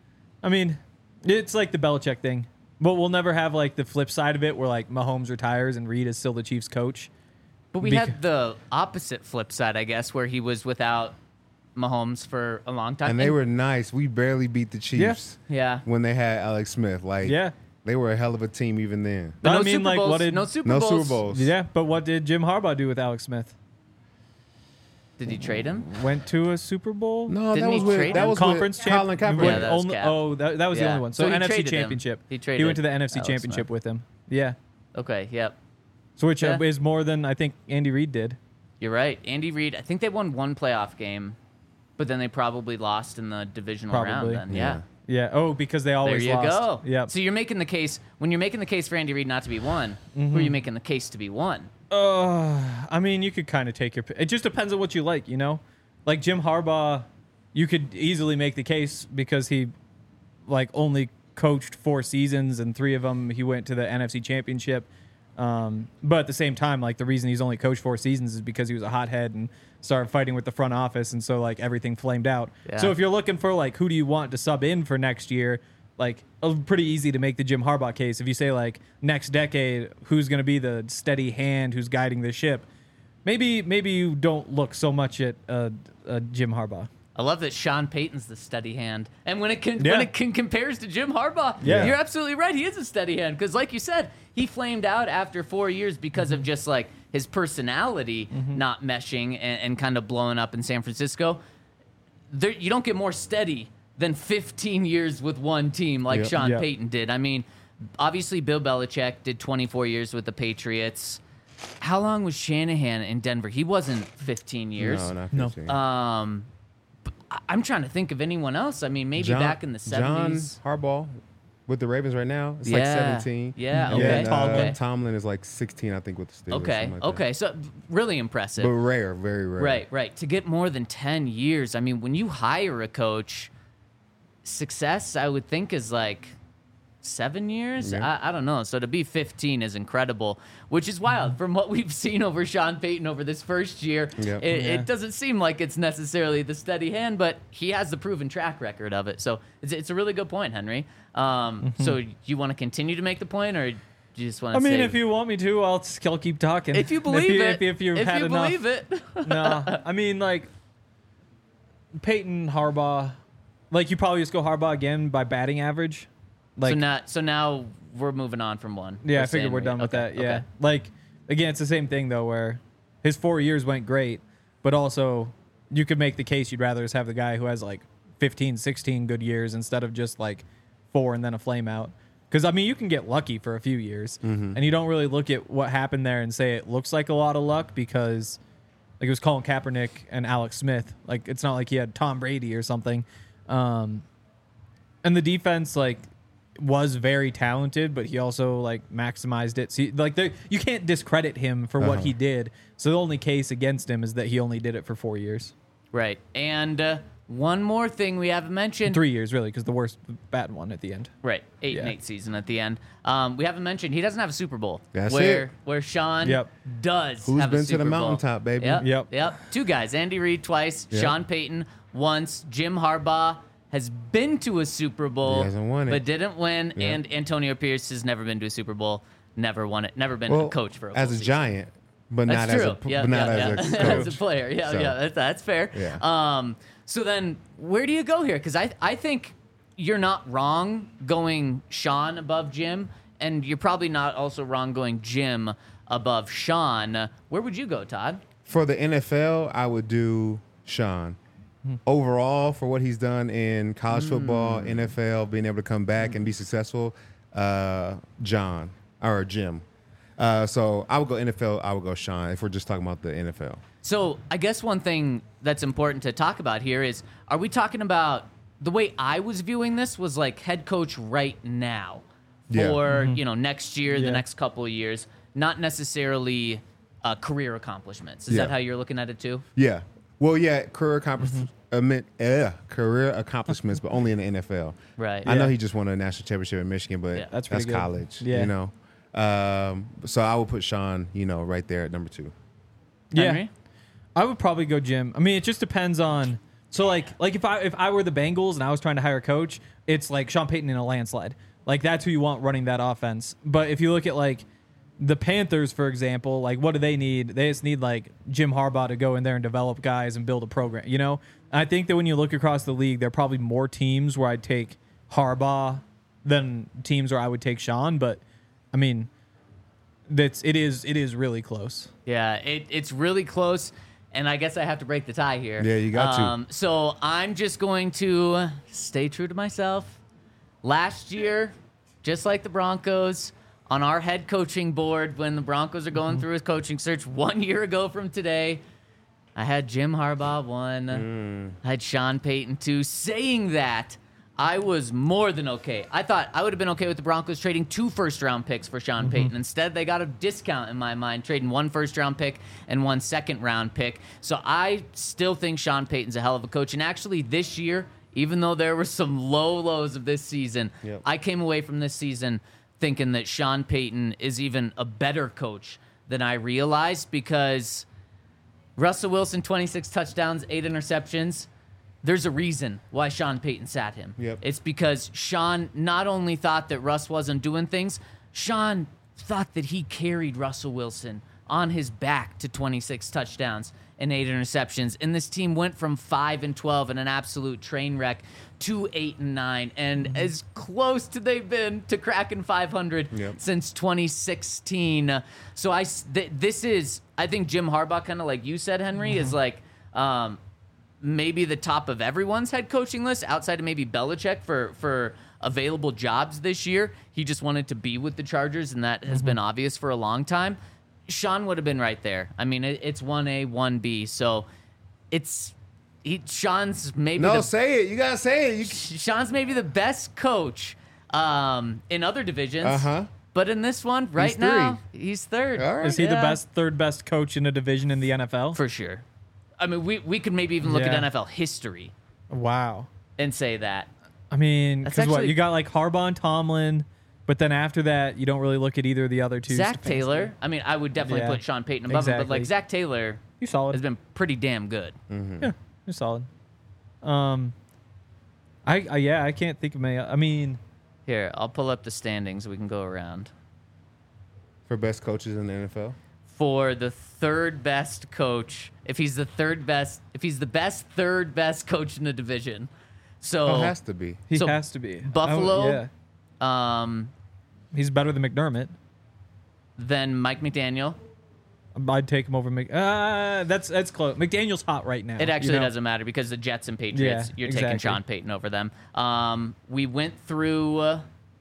C: I mean, it's like the Belichick thing, but we'll never have like the flip side of it where like Mahomes retires and Reid is still the Chiefs coach.
B: But we
C: Bec-
B: had the opposite flip side, I guess, where he was without Mahomes for a long time.
D: And they were nice. We barely beat the Chiefs
B: yeah.
D: when they had Alex Smith. Like,
C: Yeah.
D: they were a hell of a team even then.
B: But
C: I
B: no
C: mean,
B: Super
C: like,
B: Bowls,
C: what did-
B: no Super
D: No
B: Bowls.
D: Super Bowls.
C: Yeah, but what did Jim Harbaugh do with Alex Smith?
B: Did he trade him?
C: Went to a Super Bowl?
D: No,
B: Didn't
D: that
B: he
D: was with
B: trade
D: that
B: him?
D: was
C: Conference
D: with
C: champ-
D: Colin Kaepernick.
C: went
B: Yeah, that was
C: only-
B: Cap.
C: oh, that, that was the
B: Yeah.
C: only one. So,
B: So he
C: N F C
B: traded him.
C: Championship.
B: He
C: He
B: traded
C: went to the N F C
B: Alex
C: Championship
B: Smith.
C: with him. Yeah.
B: Okay, yep.
C: So which uh,
B: Yeah.
C: is more than I think Andy Reid did.
B: You're right. Andy Reid, I think they won one playoff game, but then they probably lost in the divisional
C: Probably.
B: round then. Yeah.
C: Yeah. Oh, because they
B: There
C: always
B: you
C: lost.
B: go.
C: Yeah.
B: So you're making the case, when you're making the case for Andy Reid not to be one, who
C: Mm-hmm.
B: are you making the case to be one?
C: Uh, I mean, you could kind of take your. It just depends on what you like, you know. Like Jim Harbaugh, you could easily make the case because he, like, only coached four seasons and three of them he went to the N F C Championship. Um, but at the same time, like the reason he's only coached four seasons is because he was a hothead and started fighting with the front office, and so like everything flamed out.
B: Yeah.
C: So if you're looking for like who do you want to sub in for next year, like it's pretty easy to make the Jim Harbaugh case. If you say like next decade, who's going to be the steady hand who's guiding the ship? Maybe maybe you don't look so much at uh, uh, Jim Harbaugh.
B: I love that Sean Payton's the steady hand, and when it can
C: Yeah.
B: when it can compares to Jim Harbaugh,
C: Yeah.
B: you're absolutely right. He is a steady hand because, like you said, he flamed out after four years because
C: Mm-hmm.
B: of just like his personality not meshing and, and kind of blowing up in San Francisco. There, you don't get more steady than fifteen years with one team like
D: Yep.
B: Sean
C: Yep.
B: Payton did. I mean, obviously Bill Belichick did twenty-four years with the Patriots. How long was Shanahan in Denver? He wasn't fifteen years.
D: No, not
C: No.
D: fifteen.
B: Um, but I- I'm trying to think of anyone else. I mean, maybe
D: John-
B: back in the seventies.
D: John Harbaugh with the Ravens right now. It's like
B: Yeah.
D: seventeen.
B: Yeah,
C: Yeah,
B: okay.
D: And, uh,
B: okay.
D: Tomlin is like sixteen, I think, with the Steelers.
B: Okay.
D: something like that.
B: Okay. So really impressive.
D: But rare, very rare.
B: Right, right. To get more than ten years. I mean, when you hire a coach, success, I would think, is like seven years.
D: Yeah.
B: I, I don't know. So to be fifteen is incredible, which is wild from what we've seen over Sean Payton over this first year.
D: Yeah.
B: It,
C: Yeah.
B: it doesn't seem like it's necessarily the steady hand, but he has the proven track record of it. So it's, it's a really good point, Henry. Um, So you want to continue to make the point, or do you just want
C: I
B: to
C: mean,
B: say,
C: if you want me to, I'll, I'll keep talking.
B: if you believe
C: you,
B: it,
C: if, you- if you've
B: if
C: had
B: you
C: enough.
B: believe it,
C: No, I mean, like, Peyton, Harbaugh. Like, you probably just go Harbaugh again by batting average. Like,
B: so now, so now we're moving on from one.
C: yeah,
B: We're
C: I figured
B: saying
C: we're done with
B: okay,
C: that. Yeah.
B: okay.
C: Like, again, it's the same thing, though, where his four years went great, but also you could make the case you'd rather just have the guy who has, like, fifteen, sixteen good years instead of just, like, four and then a flame out. Because, I mean, you can get lucky for a few years,
D: Mm-hmm.
C: and you don't really look at what happened there and say it looks like a lot of luck because, like, it was Colin Kaepernick and Alex Smith. Like, it's not like he had Tom Brady or something. Um, and the defense, like, was very talented, but he also, like, maximized it. So, like, there, you can't discredit him for what
D: Uh-huh.
C: he did. So the only case against him is that he only did it for four years.
B: Right. And uh, one more thing we haven't mentioned.
C: Three years, really, because the worst bad one at the end.
B: Right, eight and
C: Yeah.
B: eight season at the end. Um, we haven't mentioned he doesn't have a Super Bowl.
D: That's
B: where,
D: it.
B: Where Sean
C: Yep.
B: does
D: Who's
B: have
D: been
B: a
D: to
B: Super
D: the
B: Bowl.
D: mountaintop, baby?
B: Yep,
C: Yep.
B: yep. Two guys, Andy Reid twice,
D: Yep.
B: Sean Payton once, Jim Harbaugh has been to a Super Bowl,
D: He hasn't won it.
B: but didn't win,
D: Yep.
B: and Antonio Pierce has never been to a Super Bowl, never won it, never been
D: Well,
B: a coach for a
D: as
B: full
D: a
B: season.
D: giant, but
B: That's
D: not
B: true.
D: as a
B: yeah,
D: but not
B: yeah,
D: as
B: yeah.
D: a coach.
B: as a player. Yeah,
D: So,
B: yeah, that's, that's fair.
D: Yeah.
B: Um, so then, where do you go here? Because I, I think you're not wrong going Sean above Jim, and you're probably not also wrong going Jim above Sean. Where would you go, Todd?
D: For the N F L, I would do Sean. Overall, for what he's done in college football, N F L, being able to come back and be successful, uh, John or Jim. Uh, so I would go N F L. I would go Sean if we're just talking about the N F L.
B: So I guess one thing that's important to talk about here is, are we talking about the way I was viewing this was like head coach right now
D: Yeah.
B: for, you know, next year,
C: Yeah.
B: the next couple of years, not necessarily uh, career accomplishments. Is
D: Yeah.
B: that how you're looking at it too?
D: Yeah. Well, yeah, career accomplishments, uh, career accomplishments, but only in the N F L.
B: Right.
D: I know
C: Yeah.
D: he just won a national championship in Michigan, but
B: Yeah.
C: That's
D: that's,
C: pretty good.
D: college.
C: Yeah.
D: You know. Um, so I would put Sean, you know, right there at number two.
C: Yeah.
B: Henry?
C: I would probably go Jim. I mean, it just depends on. So like, like if I if I were the Bengals and I was trying to hire a coach, it's like Sean Payton in a landslide. Like that's who you want running that offense. But if you look at like the Panthers, for example, like what do they need? They just need like Jim Harbaugh to go in there and develop guys and build a program. You know, and I think that when you look across the league, there are probably more teams where I'd take Harbaugh than teams where I would take Sean. But I mean, that's it is it is really close.
B: Yeah, it, it's really close, and I guess I have to break the tie here.
D: Yeah, you got to.
B: um, to. So I'm just going to stay true to myself. Last year, just like the Broncos, on our head coaching board, when the Broncos are going through a coaching search one year ago from today, I had Jim Harbaugh one. I had Sean Payton two. Saying that, I was more than okay. I thought I would have been okay with the Broncos trading two first-round picks for Sean Payton. Instead, they got a discount in my mind, trading one first-round pick and one second-round pick. So I still think Sean Payton's a hell of a coach. And actually, this year, even though there were some low lows of this season,
D: Yep.
B: I came away from this season thinking that Sean Payton is even a better coach than I realized, because Russell Wilson, twenty-six touchdowns, eight interceptions. There's a reason why Sean Payton sat him.
D: Yep.
B: It's because Sean not only thought that Russ wasn't doing things, Sean thought that he carried Russell Wilson on his back to twenty-six touchdowns and eight interceptions. And this team went from five and twelve in an absolute train wreck to eight and nine, and as close to they've been to cracking five hundred
D: Yep.
B: since twenty sixteen. So I, s- th- this is, I think Jim Harbaugh, kind of like you said, Henry, is like, um, maybe the top of everyone's head coaching list outside of maybe Belichick for, for available jobs this year. He just wanted to be with the Chargers, and that has been obvious for a long time. Sean would have been right there. I mean, it, it's one A, one B. So it's he, Sean's maybe
D: No,
B: the,
D: say it. You gotta say it. You,
B: Sean's maybe the best coach um, in other divisions.
D: Uh-huh.
B: But in this one, right
D: He's
B: now, he's third.
D: All right.
C: Is he the
B: Yeah.
C: best, third best coach in a division in the N F L?
B: For sure. I mean, we, we could maybe even look at
C: Yeah.
B: N F L history
C: Wow.
B: and say that.
C: I mean,
B: That's
C: because what
B: actually-
C: you got like Harbaugh and Tomlin, but then after that, you don't really look at either of the other two.
B: Zach
C: Stefanski.
B: Taylor. I mean, I would definitely
C: Yeah.
B: put Sean Payton above him, but like
C: Exactly.
B: Zach Taylor
C: You solid.
B: has been pretty damn good.
C: Yeah, you're solid. Um, I, I yeah, I can't think of my. I mean,
B: Here, I'll pull up the standings. We can go around.
D: for best coaches in the N F L.
B: for the third best coach. If he's the third best, if he's the best third best coach in the division, so
D: Oh, it has to be.
C: He
B: So,
C: has to be.
B: Buffalo-
C: Oh, yeah.
B: um,
C: He's better than McDermott.
B: then Mike McDaniel.
C: I'd take him over Mc. Uh, that's that's close. McDaniel's hot right now.
B: It actually
C: you know?
B: doesn't matter because the Jets and Patriots,
C: Yeah,
B: you're taking
C: exactly.
B: Sean Payton over them. Um, we went through uh,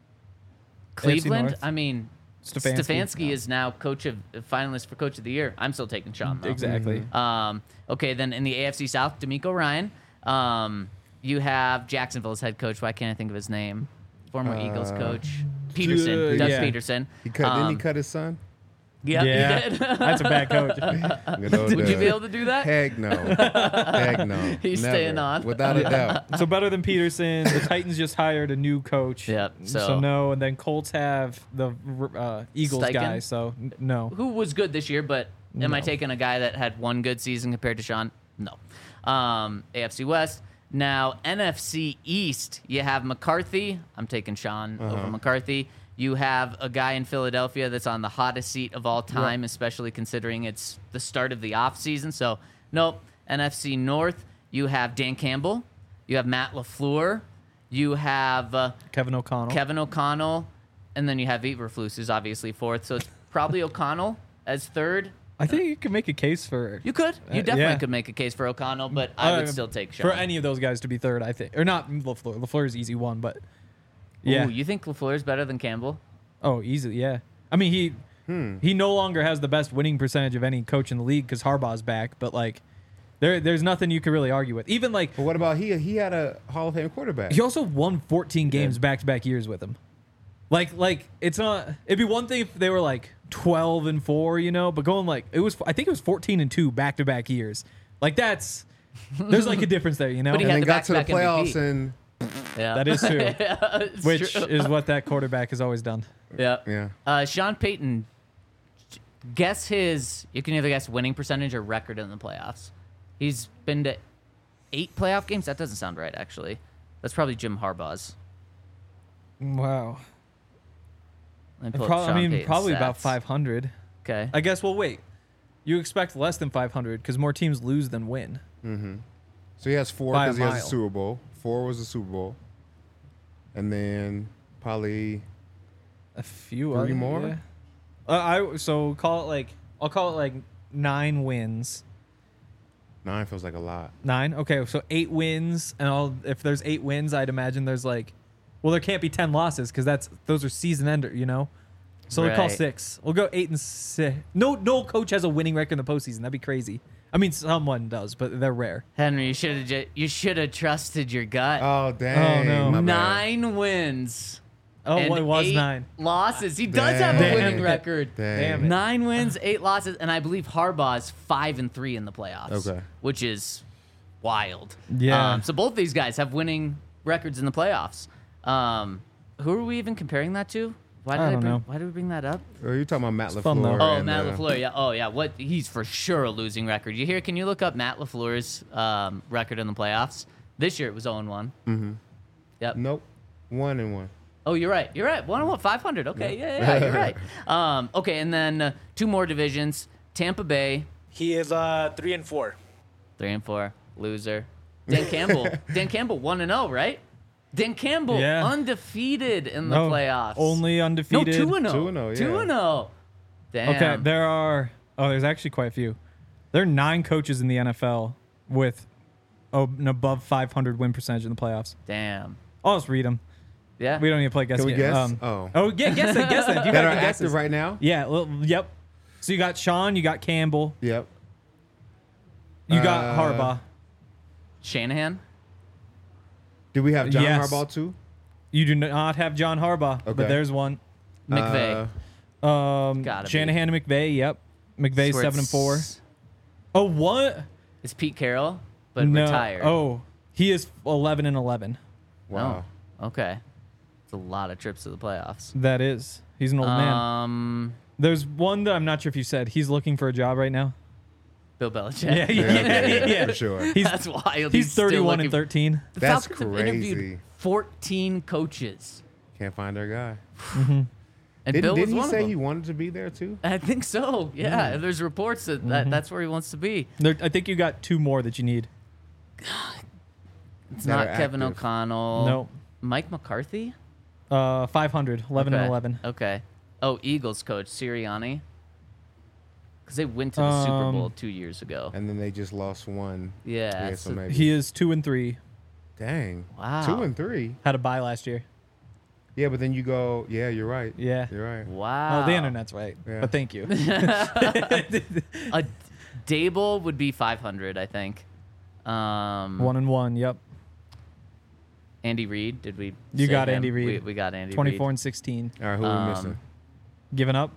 B: Cleveland.
C: North.
B: I mean,
C: Stefanski.
B: Stefanski is now coach of finalist for coach of the year. I'm still taking Sean. Though.
C: Exactly.
B: Um, okay, then in the A F C South, D'Amico Ryan. Um, you have Jacksonville's head coach. Why can't I think of his name? Former Eagles
D: Uh,
B: coach Peterson,
C: uh,
B: Doug
C: yeah.
B: Peterson.
D: He cut. didn't he
B: Um,
D: cut his son?
B: Yep,
C: yeah,
B: he did.
C: that's a bad coach.
D: Good old
B: Would you be
D: Doug.
B: able to do that?
D: Heck no. Heck no.
B: He's
D: Never.
B: staying on.
D: Without a doubt.
C: So better than Peterson. The Titans just hired a new coach.
B: Yep,
C: So,
B: so-
C: no, and then Colts have the uh, Eagles
B: Steichen?
C: guy. So n- no.
B: Who was good this year, but am I
C: No.
B: taking a guy that had one good season compared to Sean? No. Um, A F C West. Now, N F C East, you have McCarthy. I'm taking Sean over McCarthy. You have a guy in Philadelphia that's on the hottest seat of all time, especially considering it's the start of the offseason. So, nope. N F C North, you have Dan Campbell. You have Matt LaFleur. You have uh,
C: Kevin O'Connell.
B: Kevin O'Connell. And then you have Eberflus, who's obviously fourth. So, it's probably O'Connell as third.
C: I think you can make a case for
B: You could. You
C: Uh,
B: definitely
C: yeah.
B: could make a case for O'Connell, but I would
C: Uh,
B: still take Sean.
C: for any of those guys to be third. I think, or not LaFleur. LaFleur's easy one, but yeah.
B: Ooh, you think LaFleur is better than Campbell?
C: Oh, easy. Yeah. I mean, he
D: Hmm.
C: he no longer has the best winning percentage of any coach in the league because Harbaugh's back. But like, there there's nothing you can really argue with. Even like
D: But what about he? He had a Hall of Fame quarterback.
C: he also won fourteen games back to back years with him. Like like it's not. It'd be one thing if they were like twelve and four, you know, but going like it was. I think it was fourteen and two back to back years. Like that's there's like a difference there, you know.
B: But he
D: and
B: had
D: then
B: the
D: got to the
B: back-to-back M V P.
D: playoffs and
B: Yeah.
C: That is true.
B: Yeah, it's
C: Which
B: true.
C: is what that quarterback has always done.
B: Yeah.
D: yeah.
B: Uh, Sean Payton, guess his, you can either guess winning percentage or record in the playoffs. He's been to eight playoff games. That doesn't sound right, actually. That's probably Jim Harbaugh's.
C: Wow.
B: Let me pull up
C: Pro- I
B: Sean
C: mean,
B: Payton's
C: probably about
B: stats.
C: five hundred.
B: Okay.
C: I guess. Well, wait. You expect less than five hundred because more teams lose than win.
D: So he has four
C: By a
D: because he has
C: mile.
D: a Super Bowl. Four was a Super Bowl, and then probably
C: A few
D: Three
C: other-
D: more?
C: yeah. Uh, I so call it like I'll call it like nine wins.
D: nine feels like a lot.
C: Nine. Okay, so eight wins, and I'll if there's eight wins, I'd imagine there's like, well, there can't be ten losses because that's those are season ender, you know. So we'll call
B: Right.
C: six. We'll go eight and six. No, no coach has a winning record in the postseason. That'd be crazy. I mean, someone does, but they're rare.
B: Henry, you should have ju- you should have trusted your gut.
D: Oh dang!
C: no.
D: my bad.
B: Nine wins.
C: Oh,
B: and
C: well, it was
B: eight
C: nine.
B: losses. He does
D: Damn.
B: have a
C: Damn
B: winning
C: it.
B: record.
D: Dang.
C: Damn it.
B: Nine wins, eight losses, and I believe Harbaugh's five and three in the playoffs.
D: Okay.
B: Which is wild.
C: Yeah.
B: Um, so both these guys have winning records in the playoffs. Um, who are we even comparing that to? Why did
C: I
B: I,
C: don't
B: bring,
C: know.
B: Why did we bring that up?
D: Are you talking about Matt
C: It's fun, though.
D: LaFleur?
B: Oh,
D: and,
B: Matt
D: uh,
B: LaFleur. Yeah. Oh, yeah. What? He's for sure a losing record. You hear? Can you look up Matt LaFleur's um, record in the playoffs? This year it was zero and one.
D: Mm-hmm.
B: Yep.
D: Nope. One and one.
B: Oh, you're right. You're right. one and one, five hundred. Okay. Yeah, yeah, yeah, you're right. Um, okay, and then uh, two more divisions. Tampa Bay,
E: He is uh three and four.
B: three and four. Loser. Dan Campbell. Dan Campbell, one and zero, right? Dan Campbell,
C: Yeah.
B: undefeated in the
C: No,
B: playoffs.
C: Only
B: no,
C: undefeated.
B: two and zero.
D: Two and oh,
B: Two
D: yeah.
B: and zero. Damn.
C: Okay, there are. Oh, there's actually quite a few. There are nine coaches in the N F L with oh, an above five hundred win percentage in the playoffs.
B: Damn.
C: I'll just read them.
B: Yeah.
C: We don't need to play guess.
D: Can we
C: game.
D: guess?
C: Um,
D: oh.
C: oh, yeah, guess it. Guess it. You
D: that
C: got
D: are
C: the
D: active
C: guesses.
D: right now?
C: Yeah. Well, yep. So you got Sean. You got Campbell.
D: Yep.
C: You got
D: Uh,
C: Harbaugh.
B: Shanahan.
D: Do we have John
C: Yes.
D: Harbaugh too?
C: You do not have John Harbaugh,
D: Okay.
C: but there's one.
B: McVay.
D: Uh,
C: Um,
B: Gotta be.
C: Shanahan and McVay. Yep. McVay's
B: Swear
C: seven and
B: it's-
C: four. Oh, what?
B: It's Pete Carroll, but
C: no.
B: retired.
C: Oh, he is eleven and eleven.
D: wow.
B: Oh, okay. It's a lot of trips to the playoffs.
C: That is. He's an old man.
B: Um,
C: There's one that I'm not sure if you said. He's looking for a job right now.
B: Bill Belichick.
C: Yeah,
D: Yeah,
C: yeah,
D: okay,
C: yeah.
D: for sure.
C: He's
B: That's wild.
C: he's
B: still
C: thirty-one
B: looking
C: and thirteen.
B: The
D: That's
B: Falcons have interviewed
D: crazy.
B: fourteen coaches.
D: Can't find our guy.
B: And And
D: Didn't,
B: Bill was
D: didn't he
B: one of
D: say
B: them.
D: he wanted to be there too?
B: I think so. Yeah, there's reports that, that that's where he wants to be.
C: There, I think you got two more that you need.
B: It's
D: That
B: not
D: are
B: Kevin
D: active.
B: O'Connell.
C: No.
B: Mike McCarthy?
C: Uh, five hundred, eleven
B: okay.
C: and eleven.
B: Okay. Oh, Eagles coach Sirianni. Because they went to the Super
C: Um,
B: Bowl two years ago.
D: And then they just lost one.
B: Yeah.
D: Yeah, so
B: so-
D: maybe.
C: He is two and three.
D: Dang.
B: Wow.
D: Two and three.
C: Had a bye last year.
D: Yeah, but then you go. Yeah, you're right.
C: Yeah.
D: You're right.
B: wow.
C: Oh, the internet's right.
D: Yeah.
C: But thank you.
B: A Dable would be five hundred, I think. Um,
C: One and one. Yep.
B: Andy Reid, did we?
C: You
B: say
C: got
B: him?
C: Andy Reid.
B: We, we got Andy
C: Twenty-four
B: Reid.
C: and sixteen.
D: All right, who are
B: Um,
D: we missing?
C: Giving up.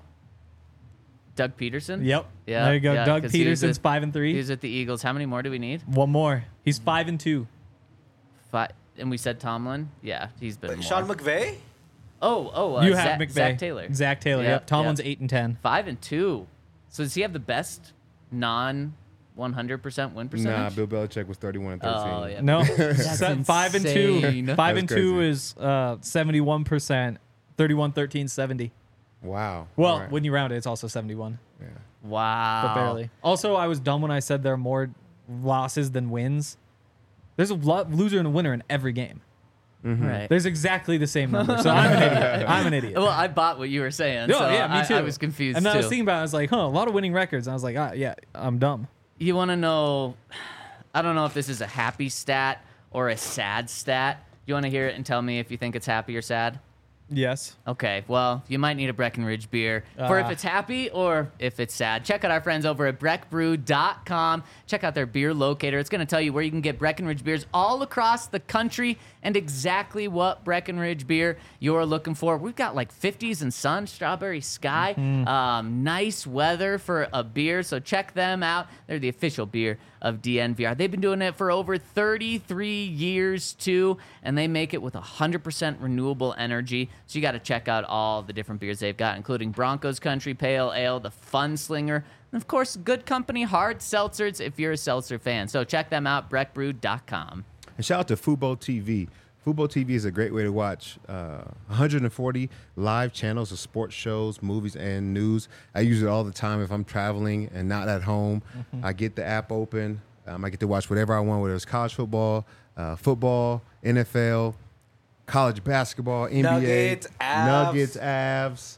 B: Doug Peterson.
C: Yep.
B: Yeah,
C: There you go.
B: yeah,
C: Doug
B: 'cause he was
C: Peterson's
B: at-
C: five and three.
B: He's at the Eagles. How many more do we need?
C: One more. He's five and two.
B: Five. And we said Tomlin. Yeah, he's been more.
E: Sean McVay?
B: oh, oh, uh,
C: you
B: Zach,
C: have McVay.
B: Zach Taylor.
C: Zach Taylor.
B: Yep,
C: Yep. Tomlin's
B: yep.
C: eight and ten.
B: Five and two. So does he have the best non one hundred percent win percentage?
D: Nah, Bill Belichick was thirty-one and thirteen.
B: Oh, yeah.
C: No.
B: That's
C: Se- five and two.
B: insane.
C: Five
D: That's
C: and two
D: crazy.
C: is uh, seventy-one percent. thirty-one, thirteen, seventy.
D: Wow.
C: Well,
D: All right.
C: when you round it, it's also seventy-one,
D: Yeah.
B: Wow.
C: but barely. Also, I was dumb when I said there are more losses than wins. There's a lo- loser and a winner in every game.
B: Right.
C: There's exactly the same number. So I'm an idiot. I'm an idiot.
B: Well, I bought what you were saying.
C: No,
B: so
C: yeah, me
B: I-
C: too.
B: I, was confused
C: And then
B: too.
C: I was thinking about it. I was like, huh, a lot of winning records. And I was like, ah, yeah, I'm dumb.
B: You want to know? I don't know if this is a happy stat or a sad stat. You want to hear it and tell me if you think it's happy or sad?
C: Yes.
B: Okay, well, you might need a Breckenridge beer for if
C: Ah.
B: it's happy or if it's sad. Check out our friends over at breck brew dot com. Check out their beer locator. It's going to tell you where you can get Breckenridge beers all across the country and exactly what Breckenridge beer you're looking for. We've got like fifties and sun, strawberry sky, um, nice weather for a beer. So check them out. They're the official beer of D N V R. They've been doing it for over thirty-three years too, and they make it with one hundred percent renewable energy. So you got to check out all the different beers they've got, including Broncos Country Pale Ale, the Fun Slinger, and of course, Good Company Hard Seltzers if you're a seltzer fan. So check them out, breck brew dot com.
D: And shout out to Fubo T V. Fubo T V is a great way to watch uh, one hundred forty live channels of sports shows, movies, and news. I use it all the time if I'm traveling and not at home.
C: Mm-hmm.
D: I get the app open. Um, I get to watch whatever I want, whether it's college football, uh, football, N F L, college basketball, N B A,
E: Nuggets, Avs.
D: Nuggets, Avs,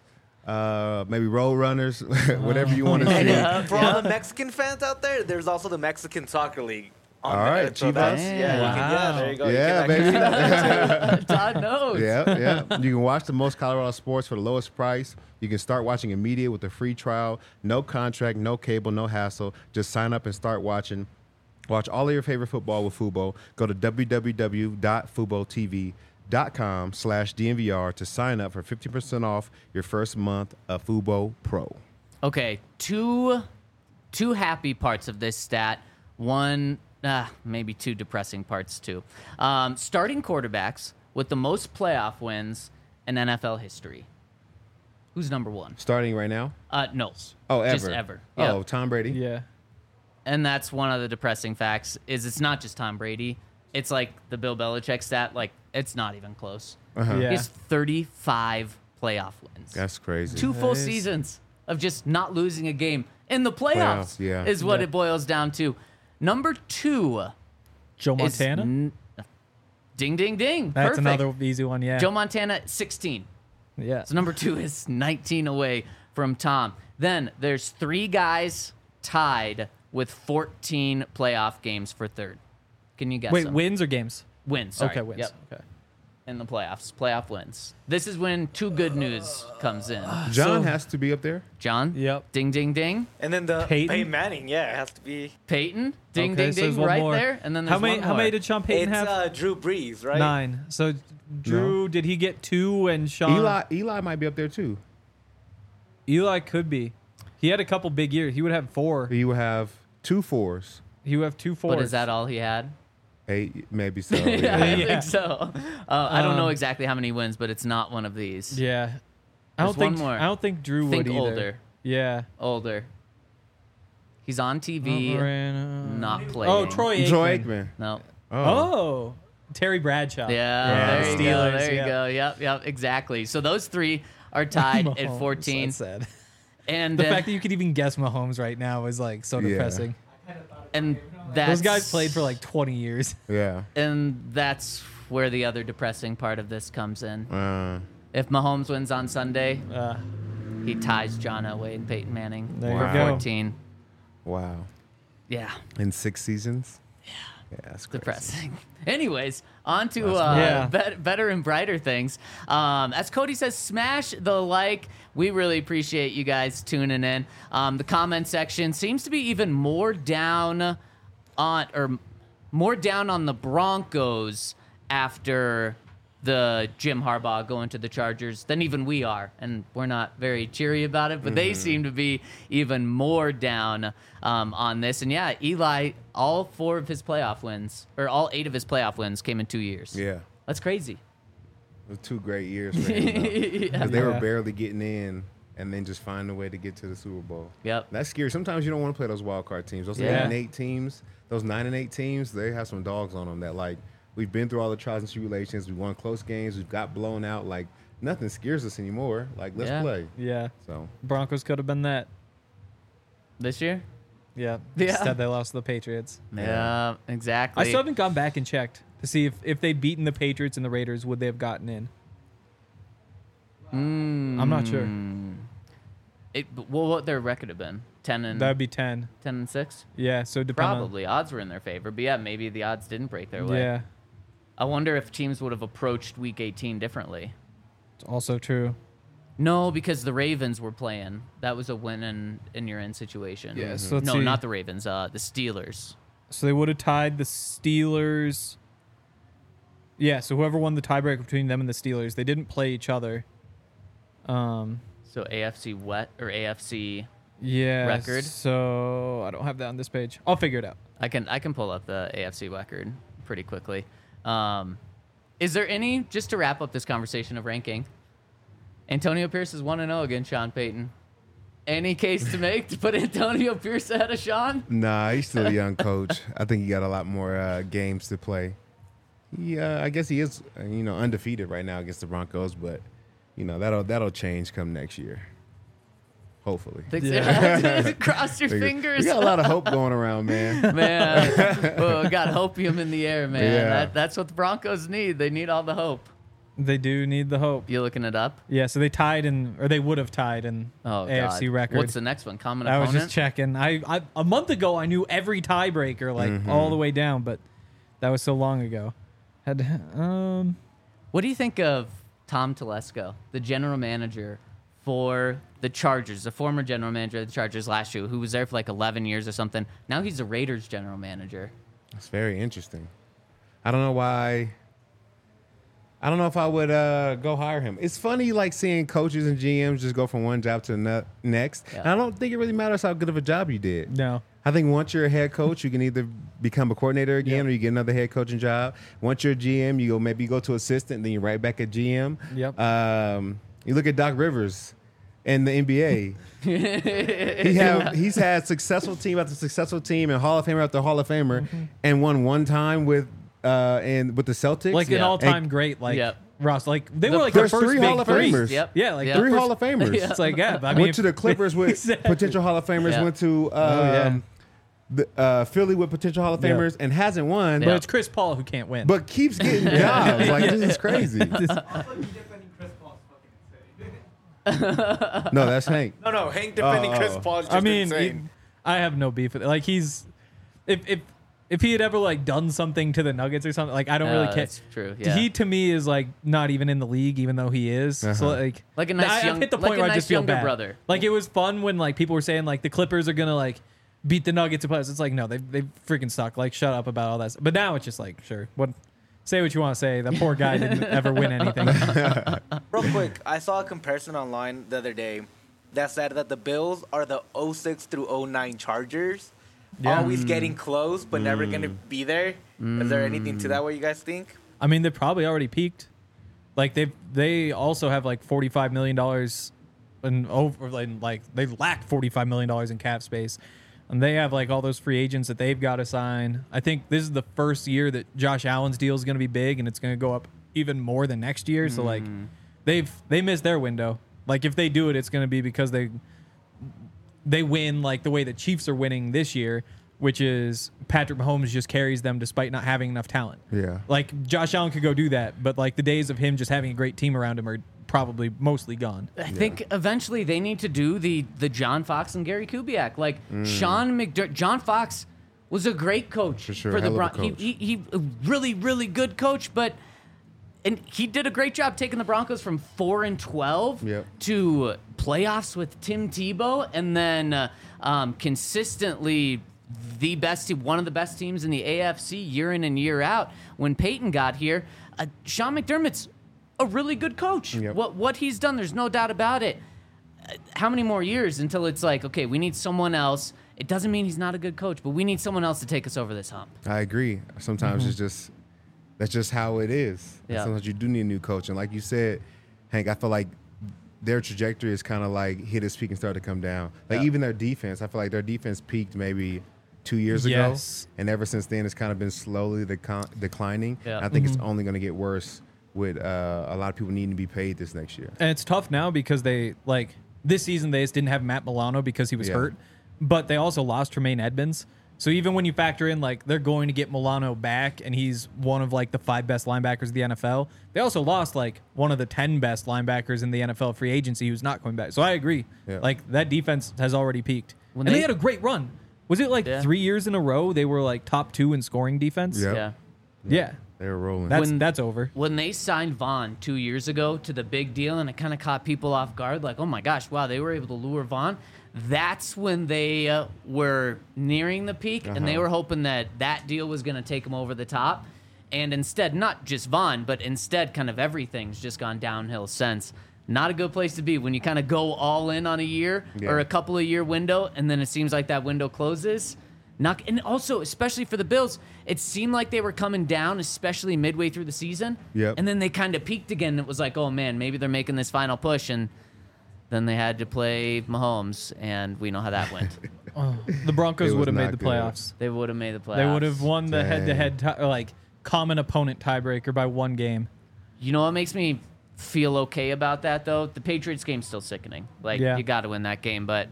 D: uh, maybe Road Runners, whatever you want to see.
B: Yeah.
E: For all the Mexican fans out there, there's also the Mexican Soccer League. on
D: All
E: there.
D: right,
E: So
D: Chivas.
E: that's- yeah, you can, yeah,
C: Wow.
E: there you go.
D: Yeah,
E: you can
D: baby.
E: actually see that.
B: Todd knows.
D: Yeah, yeah. You can watch the most Colorado sports for the lowest price. You can start watching immediate with a free trial. No contract, no cable, no hassle. Just sign up and start watching. Watch all of your favorite football with Fubo. Go to w w w dot fubo t v dot com slash D N V R to sign up for fifty percent off your first month of Fubo Pro.
B: Okay, two two happy parts of this stat. One, ah, maybe two depressing parts too. Um, starting quarterbacks with the most playoff wins in N F L history. Who's number one?
D: Starting right now?
B: Uh, no.
D: Oh, ever.
B: Just ever.
D: Oh,
B: Yep.
D: Tom Brady?
C: Yeah.
B: And that's one of the depressing facts is it's not just Tom Brady. It's like the Bill Belichick stat. Like, it's not even close.
D: Uh-huh.
C: Yeah.
B: He has thirty-five playoff wins.
D: That's crazy.
B: Two full
C: That is-
B: seasons of just not losing a game in the playoffs,
D: Playoffs, yeah.
B: is what
C: Yeah.
B: it boils down to. Number two
C: Joe
B: is
C: Montana.
B: n- ding, ding, ding.
C: That's
B: Perfect.
C: another easy one. Yeah.
B: Joe Montana, sixteen.
C: yeah.
B: So number two is nineteen away from Tom. Then there's three guys tied with fourteen playoff games for third. Can you guess
C: Wait,
B: them?
C: wins or games?
B: Wins. Sorry.
C: Okay, wins.
B: Yep.
C: Okay.
B: In the playoffs. Playoff wins. This is when two good news comes in.
D: John
C: So-
D: has to be up there.
B: John?
C: Yep.
B: Ding, ding, ding.
E: And then the
C: Peyton?
E: Peyton Manning, yeah, it has to be.
B: Peyton? Ding,
C: Okay,
B: ding,
C: so there's
B: ding.
C: one
B: Right
C: more.
B: there. And then there's
C: How many?
B: one
C: How
B: more.
C: many did Sean Payton
E: It's
C: have?
E: uh, Drew Brees, right?
C: Nine. So Drew, did he get two? And Sean
D: Eli Eli might be up there too.
C: Eli could be. He had a couple big years. He would have four.
D: He would have two fours.
C: He would have two fours.
B: But is that all he had?
D: Eight, maybe so.
B: yeah,
D: Yeah.
B: I
C: Yeah.
B: think so. Uh, I don't know
C: Um,
B: exactly how many wins, but it's not one of these.
C: Yeah. I
B: There's
C: don't think.
B: one more.
C: I don't think Drew
B: Think
C: would either.
B: older.
C: Yeah.
B: Older. He's on T V,
C: Moreno.
B: not playing.
C: Oh, Troy Aikman.
D: Troy Aikman.
B: No.
D: Oh.
C: Oh, Terry Bradshaw.
B: Yeah,
C: Yeah,
B: there you go.
C: Steelers,
B: There you
C: yeah.
B: go. Yep, yep, exactly. So those three are tied at
C: Mahomes,
B: fourteen.
C: That's sad.
B: And
C: The
B: uh,
C: fact that you could even guess Mahomes right now is like so
D: Yeah.
C: depressing.
B: and that's,
C: Those guys played for like twenty years.
D: Yeah.
B: and that's where the other depressing part of this comes in.
D: Uh,
B: If Mahomes wins on Sunday,
C: Uh,
B: he ties John Elway and Peyton Manning
C: There
B: for
D: you go.
B: fourteen.
D: wow.
B: Yeah,
D: In six seasons. Yeah. Yeah, that's crazy.
B: depressing. Anyways, on to
D: That's
B: uh,
C: Yeah.
B: bet- better and brighter things. Um, as Cody says, smash the like. We really appreciate you guys tuning in. Um, the comment section seems to be even more down on, or more down on the Broncos after the Jim Harbaugh going to the Chargers than even we are, and we're not very cheery about it. But
D: Mm-hmm.
B: they seem to be even more down um, on this. And yeah, Eli, all four of his playoff wins, or all eight of his playoff wins, came in two years.
D: Yeah.
B: That's crazy.
D: It was two great years for him. though.
B: Yeah.
D: 'Cause they were
C: Yeah.
D: barely getting in and then just find a way to get to the Super Bowl.
B: Yep.
D: That's scary. Sometimes you don't want to play those wild card teams. Those eight
B: Yeah.
D: and eight teams, those nine and eight teams, they have some dogs on them that like we've been through all the trials and tribulations. We won close games. We've got blown out. Like nothing scares us anymore. Like let's
B: Yeah.
D: play.
C: yeah.
D: So
C: Broncos could have been that.
B: This year?
C: Yeah.
B: Yeah.
C: Instead, they lost to the Patriots.
B: Yeah, exactly.
C: I still haven't gone back and checked to see if, if they'd beaten the Patriots and the Raiders, would they have gotten in?
B: Mm,
C: I'm not sure.
B: It, well, what their record have been? ten and
C: That would be ten.
B: ten and six.
C: Yeah. So depending on-
B: Probably odds were in their favor, but yeah, maybe the odds didn't break their way.
C: Yeah.
B: I wonder if teams would have approached Week eighteen differently.
C: It's also true.
B: No, because the Ravens were playing. That was a win in in your in situation.
C: Yeah, so let's
B: no,
C: see.
B: not the Ravens. Uh, the Steelers.
C: So they would have tied the Steelers. Yeah, so whoever won the tiebreak between them and the Steelers, they didn't play each other. Um,
B: So A F C Wet or A F C.
C: yeah.
B: Record?
C: So I don't have that on this page. I'll figure it out.
B: I can I can pull up the A F C record pretty quickly. Um, is there any, just to wrap up this conversation of ranking, Antonio Pierce is one and oh against Sean Payton. Any case to make to put Antonio Pierce ahead of Sean?
D: nah, he's still a young coach. I think he got a lot more uh, games to play. Yeah, I guess he is, uh, you know, undefeated right now against the Broncos, but you know that'll that'll change come next year. Hopefully.
B: Think so?
C: Yeah.
B: Cross your
D: We got-
B: fingers.
D: We got a lot of hope going around, man.
B: Man, oh, we got hopium in the air, man.
D: Yeah.
B: That, that's what the Broncos need. They need all the hope.
C: They do need the hope.
B: You looking it up?
C: Yeah, so they tied in, or they would have tied in
B: Oh,
C: A F C
B: God.
C: record.
B: What's the next one? Common
C: I was
B: opponent?
C: just checking. I, I a month ago I knew every tiebreaker, like
D: Mhm.
C: all the way down, but that was so long ago. Had to- um,
B: What do you think of Tom Telesco, the general manager for the Chargers, the former general manager of the Chargers last year, who was there for like eleven years or something? Now he's the Raiders general manager.
D: It's very interesting. I don't know why. I don't know if I would uh, go hire him. It's funny, like seeing coaches and G Ms just go from one job to the ne- next.
B: Yeah.
D: And I don't think it really matters how good of a job you did.
C: no.
D: I think once you're a head coach, you can either become a coordinator again,
C: Yep.
D: or you get another head coaching job. Once you're a G M, you go maybe you go to assistant, then you're right back at G M.
C: Yep.
D: Um, you look at Doc Rivers in the N B A. he have he's had successful team after successful team and Hall of Famer after Hall of Famer,
C: Mm-hmm.
D: and won one time with uh and with the Celtics.
C: Like an
B: Yeah.
C: all-time
D: And
C: great, like
B: Yep.
C: Ross. Like they
B: The
C: were like the
D: first
C: first
D: three
C: big
D: Hall of
C: three.
D: Famers.
B: Yep.
C: Yeah, like
B: Yep.
C: the
D: three
C: first-
D: Hall of Famers.
B: Yeah.
C: It's like yeah, I mean,
D: Went to the Clippers with
C: Exactly.
D: potential Hall of Famers.
B: Yeah.
D: Went to um,
C: Oh, yeah.
D: the, uh, Philly with potential Hall of
C: Yeah.
D: Famers and hasn't won.
C: but
B: Yeah.
C: it's Chris Paul who can't win.
D: But keeps getting jobs. Like this is crazy.
F: Also, you defending Chris Paul is fucking insane.
D: No, that's Hank.
E: No, no, Hank defending
D: Oh,
E: Chris
D: oh.
E: Paul is just
C: I mean,
E: insane.
C: he- I have no beef with it. Like he's, if if if he had ever like done something to the Nuggets or something, like I don't really
B: Uh,
C: care.
B: That's true. Yeah.
C: He to me is like not even in the league, even though he is. So
D: Uh-huh.
C: like,
B: Like a nice
C: I, I've
B: young-
C: hit the
B: like
C: point
B: a
C: where I
B: nice
C: just feel
B: younger
C: bad.
B: brother.
C: Like it was fun when like people were saying like the Clippers are gonna like beat the Nuggets in playoffs. It's like no, they they freaking suck. Like shut up about all that. Stuff. But now it's just like sure, what say what you want to say. That poor guy didn't ever win anything.
E: Real quick, I saw a comparison online the other day that said that the Bills are the oh six through oh nine Chargers.
C: Yeah.
E: Always getting close, but never going to be there. Is there anything to that, what you guys think?
C: I mean, they probably already peaked. Like they they also have like forty five million dollars and over and like they lack forty five million dollars in cap space, and they have like all those free agents that they've got to sign. I think this is the first year that Josh Allen's deal is going to be big, and it's going to go up even more than next year. So like they've they missed their window. Like if they do it, it's going to be because they they win like the way the Chiefs are winning this year, which is Patrick Mahomes just carries them despite not having enough talent.
D: Yeah.
C: Like Josh Allen could go do that, but like the days of him just having a great team around him are probably mostly gone.
B: I think eventually they need to do the the John Fox and Gary Kubiak. Like Sean McDermott, John Fox was a great coach
D: For sure,
B: for the
D: hell of a
B: Broncos. He,
D: coach.
B: he he a really really good coach, but and he did a great job taking the Broncos from four and twelve
D: Yep.
B: to playoffs with Tim Tebow, and then uh, um, consistently the best, te- one of the best teams in the A F C year in and year out. When Peyton got here, uh, Sean McDermott's a really good coach.
D: Yep.
B: What what he's done, there's no doubt about it. Uh, How many more years until it's like, okay, we need someone else? It doesn't mean he's not a good coach, but we need someone else to take us over this hump.
D: I agree. Sometimes it's just that's just how it is. And
B: Yeah.
D: Sometimes you do need a new coach, and like you said, Hank, I feel like their trajectory is kind of like hit its peak and started to come down. Like
C: Yeah.
D: even their defense, I feel like their defense peaked maybe two years
C: Yes.
D: ago, and ever since then, it's kind of been slowly decon- declining.
B: Yeah.
D: I think it's only going to get worse with uh, a lot of people needing to be paid this next year.
C: And it's tough now because they like this season they just didn't have Matt Milano because he was
D: Yeah.
C: hurt, but they also lost Tremaine Edmonds. So even when you factor in like they're going to get Milano back and he's one of like the five best linebackers of the N F L, they also lost like one of the ten best linebackers in the N F L free agency who's not coming back. So I agree.
D: Yeah.
C: Like that defense has already peaked.
B: When
C: and they,
B: they-
C: had a great run. Was it like
B: Yeah.
C: three years in a row they were like top two in scoring defense?
D: Yep.
B: Yeah.
C: Yeah.
D: They're rolling.
C: That's
B: When-
C: that's over.
B: When they signed Vaughn two years ago to the big deal, and it kind of caught people off guard, like, oh my gosh, wow, they were able to lure Vaughn. That's when they uh, were nearing the peak, and they
D: Uh-huh.
B: were hoping that that deal was going to take them over the top. And instead, not just Vaughn, but instead, kind of everything's just gone downhill since. Not a good place to be when you kind of go all in on a year
D: Yeah.
B: or a couple of year window, and then it seems like that window closes. Not, and also, especially for the Bills, it seemed like they were coming down, especially midway through the season.
D: Yep.
B: And then they kind of peaked again. It was like, oh man, maybe they're making this final push, and then they had to play Mahomes, and we know how that went.
C: The Broncos
D: It was
C: would have made
D: not
C: the
D: good.
C: playoffs.
B: They would have made the playoffs.
C: They would have won the
D: Dang.
C: head-to-head ti- or, like common opponent tiebreaker by one game.
B: You know what makes me feel okay about that though? The Patriots game's still sickening. Like
C: Yeah.
B: you got to win that game, but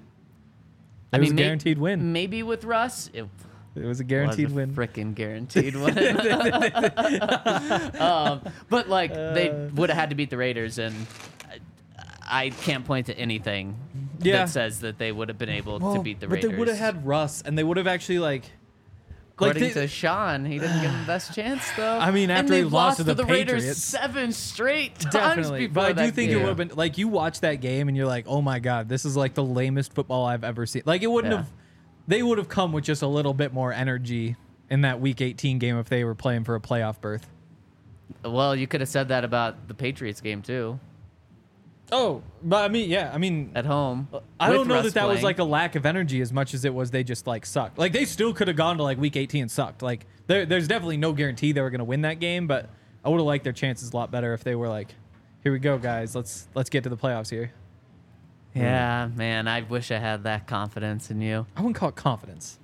C: It was a
B: may-
C: guaranteed win.
B: Maybe with Russ, it
C: It was a guaranteed
B: was a
C: win.
B: Freaking guaranteed win. um, but like they
C: Uh.
B: would have had to beat the Raiders, and I, I can't point to anything
C: Yeah.
B: that says that they would have been able to beat the
C: but
B: Raiders.
C: they would have had Russ, and they would have actually like.
B: According
C: like they-
B: to Sean, he didn't give him the best chance though.
C: I mean,
B: And
C: after he
B: they've
C: lost to the
B: the Raiders
C: Patriots.
B: seven straight times
C: Definitely,
B: before
C: but I do
B: that
C: think
B: game.
C: it would have been like you watch that game and you're like, oh my god, this is like the lamest football I've ever seen. Like it wouldn't
B: Yeah.
C: have, they would have come with just a little bit more energy in that Week eighteen game if they were playing for a playoff berth.
B: Well, you could have said that about the Patriots game too,
C: Oh, but I mean, yeah, I mean,
B: at home.
C: I
B: with
C: don't know
B: Russ
C: that that was
B: playing.
C: like a lack of energy as much as it was they just like sucked. Like they still could have gone to like Week eighteen and sucked. Like there, there's definitely no guarantee they were going to win that game, but I would have liked their chances a lot better if they were like, here we go, guys, let's let's get to the playoffs here.
B: Yeah, man, I wish I had that confidence in you.
C: I wouldn't call it confidence.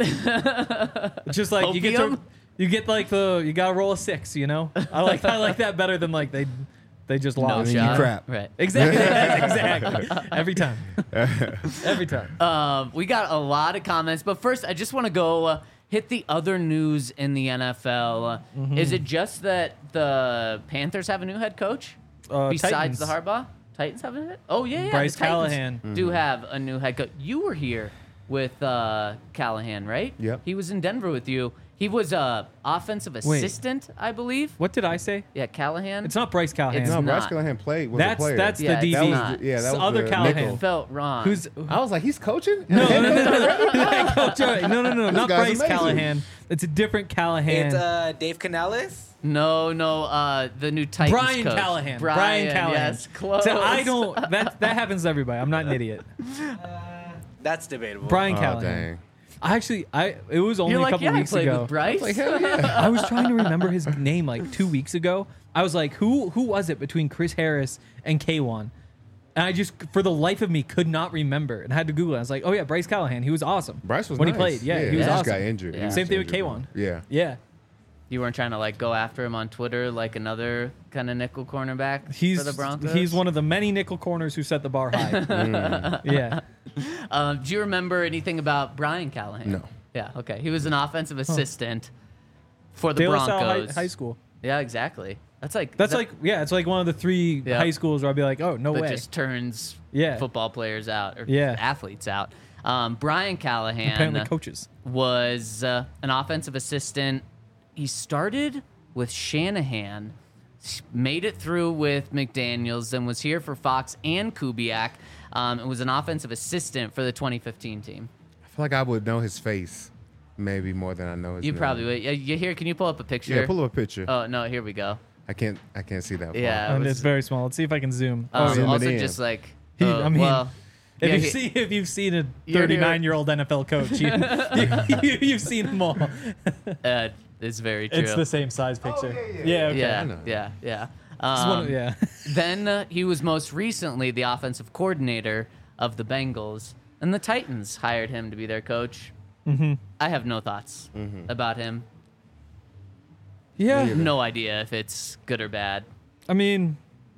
C: It's just like you get to
B: Opium?
C: you get like the you gotta roll a six, you know. I like I like that better than like they they just
B: No
C: lost.
B: shot.
D: crap.
B: Right.
C: Exactly, exactly. Every time, every time.
B: Um, we got a lot of comments, but first, I just want to go uh, hit the other news in the N F L. Uh,
C: Mm-hmm.
B: Is it just that the Panthers have a new head coach
C: Uh,
B: besides
C: Titans.
B: the Harbaugh? Titans have a head? Oh yeah, yeah.
C: Bryce
B: the Titans
C: Callahan.
B: do have a new head coach. You were here with uh, Callahan, right?
D: Yep.
B: He was in Denver with you. He was uh, offensive assistant, I believe.
C: What did I say?
B: Yeah, Callahan.
C: It's not Bryce Callahan.
B: It's
D: No, Bryce
B: not.
D: Callahan played. Was
C: That's
D: a player.
C: that's
B: Yeah,
C: the D
B: it's
C: B.
B: not.
D: The- yeah, that
C: It's
D: was
C: the other
D: the
C: Callahan.
D: nickel.
B: felt wrong.
C: Who's
D: I was like, he's coaching.
C: no, no, no, no, Coach, uh, no, no, no, not
D: guy's
C: Bryce
D: amazing.
C: Callahan. It's a different Callahan.
E: It's uh, Dave Canales.
B: No, no, uh, the new Titans
C: Brian
B: coach.
C: Callahan.
B: Brian,
C: Brian Callahan.
B: Yes, close.
C: So I don't. That that happens to everybody. I'm not an idiot.
E: That's debatable.
C: Brian
D: Oh,
C: Callahan.
D: dang.
C: I actually, I it was only
B: You're
C: a
B: like,
C: couple
B: yeah, I
C: weeks
B: played
C: ago.
B: with Bryce.
D: Like, hell yeah.
C: I was trying to remember his name like two weeks ago. I was like, who who was it between Chris Harris and K one? And I just, for the life of me, could not remember and I had to Google it. I was like, oh yeah, Bryce Callahan. He was awesome.
D: Bryce was
C: when
D: nice.
C: he played. Yeah, he was
D: he
C: awesome.
D: just got injured. He
B: Yeah.
D: was
C: Same thing with
D: injured.
C: K one.
D: Yeah.
C: Yeah.
B: You weren't trying to like go after him on Twitter like another kind of nickel cornerback
C: He's
B: for the Broncos.
C: he's one of the many nickel corners who set the bar high.
D: Mm.
C: Yeah.
B: Um, do you remember anything about Brian Callahan?
D: No.
B: Yeah. Okay. He was an offensive assistant for the
C: De La Salle
B: Broncos.
C: High, High School.
B: Yeah, exactly. That's like
C: That's
B: that-
C: like yeah, it's like one of the three
B: Yeah.
C: high schools where I'd be like, oh no
B: that
C: way.
B: just turns
C: Yeah.
B: football players out or
C: Yeah.
B: athletes out. Um, Brian Callahan
C: Apparently coaches.
B: was uh, an offensive assistant. He started with Shanahan, s- made it through with McDaniels, then was here for Fox and Kubiak. Um, and was an offensive assistant for the twenty fifteen team.
D: I feel like I would know his face, maybe more than I know his
B: You
D: name.
B: probably would. Yeah, you here? Can you pull up a picture?
D: Yeah, pull up a picture.
B: Oh no, here we go.
D: I can't. I can't see that. Far.
B: Yeah.
C: And
B: was-
C: it's very small. Let's see if I can zoom.
B: Um,
C: Oh,
D: Zoom it
B: also,
D: in.
B: just like
C: He-
B: uh,
C: I mean,
B: well,
C: if
B: yeah,
C: you've
B: he-
C: seen if you've seen a
B: You're-
C: thirty-nine-year-old N F L coach, you, you, you, have seen them all.
B: uh, it's very true.
C: It's the same size picture.
D: yeah, yeah.
C: yeah. Okay.
D: I
B: yeah,
D: know.
B: yeah, yeah.
C: It's one
B: Um,
C: of- yeah.
B: Then uh, he was most recently the offensive coordinator of the Bengals, and the Titans hired him to be their coach.
C: hmm
B: I have no thoughts
D: Mm-hmm.
B: about him.
C: Yeah.
D: either.
B: No idea if it's good or bad.
C: I mean,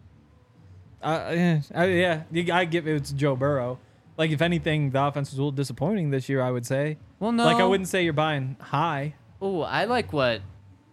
C: uh, yeah, I, yeah, you- I give it's Joe Burrow. Like, if anything, the offense was a little disappointing this year, I would say.
B: Well, no.
C: Like, I wouldn't say you're buying high.
B: Oh, I like what,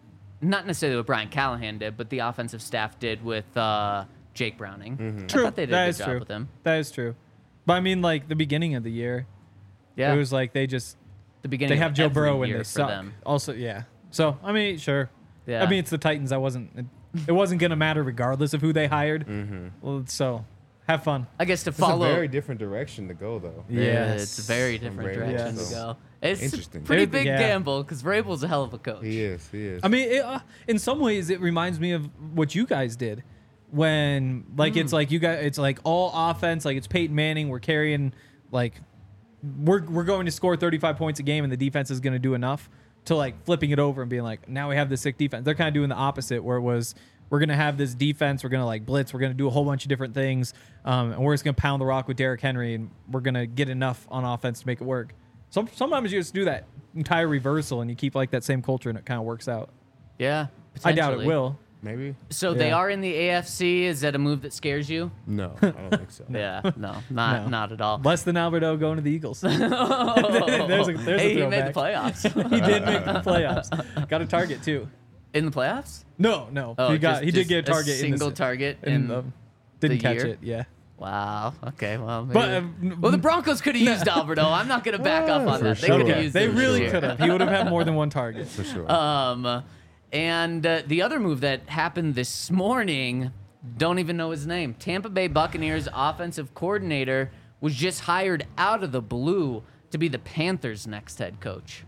B: not necessarily what Brian Callahan did, but the offensive staff did with uh, Jake Browning.
D: Mm-hmm.
B: I
C: True.
B: thought they did
C: That
B: a good
C: is
B: job
C: true.
B: with him.
C: That is true. But I mean, like, the beginning of the year,
B: Yeah,
C: it was like they just,
B: the beginning.
C: they
B: of
C: have Joe
B: every
C: Burrow and
B: year
C: they
B: for
C: suck.
B: them.
C: Also, yeah. So, I mean, sure.
B: Yeah.
C: I mean, it's the Titans. I wasn't, it, it wasn't going to matter regardless of who they hired.
D: Mm-hmm.
C: Well, so, have fun.
B: I guess to
D: It's
B: follow.
D: a very different direction to go, though.
B: Yeah,
C: Yes.
B: it's a very different
D: Vrabel,
B: direction
C: Yes.
B: to go. It's
D: Interesting.
B: a pretty
C: It-
B: big
C: yeah.
B: gamble because Vrabel's a hell of a coach.
D: He is. He is.
C: I mean, it, uh, in some ways, it reminds me of what you guys did when, like,
B: Hmm.
C: it's like you guys, it's like all offense, like it's Peyton Manning. We're carrying, like, we're we're going to score thirty-five points a game, and the defense is going to do enough to like flipping it over and being like, now we have this sick defense. They're kind of doing the opposite, where it was we're going to have this defense, we're going to like blitz, we're going to do a whole bunch of different things, um, and we're just going to pound the rock with Derrick Henry, and we're going to get enough on offense to make it work. Some sometimes you just do that entire reversal, and you keep like that same culture, and it kind of works out.
B: Yeah,
C: I doubt it
B: potentially.
C: will.
D: Maybe.
B: So they
C: Yeah.
B: are in the A F C. Is that a move that scares you?
D: No, I don't think so.
B: Yeah, no, not
C: No.
B: not at all.
C: Less than Alberto going to the Eagles. he there's a- there's a
B: hey, he made the
C: throwback.
B: playoffs.
C: did make the playoffs. Got a target too.
B: in the playoffs?
C: No, no.
B: Oh,
C: he got
B: just-
C: he
B: just
C: did get a target in
B: single
C: the,
B: target
C: in
B: in
C: the, didn't
B: the
C: catch
B: year?
C: it. Yeah.
B: Wow. Okay. Well, maybe.
C: But, um,
B: well, the Broncos could have used Alberto. I'm not going to back up on
D: For
B: that. They
D: sure.
B: could have
C: Okay,
B: used
C: they
B: him this
C: really
B: year.
C: could have. He would have had more than one target.
D: For sure.
B: Um, and uh, the other move that happened this morning, don't even know his name. Tampa Bay Buccaneers offensive coordinator was just hired out of the blue to be the Panthers' next head coach.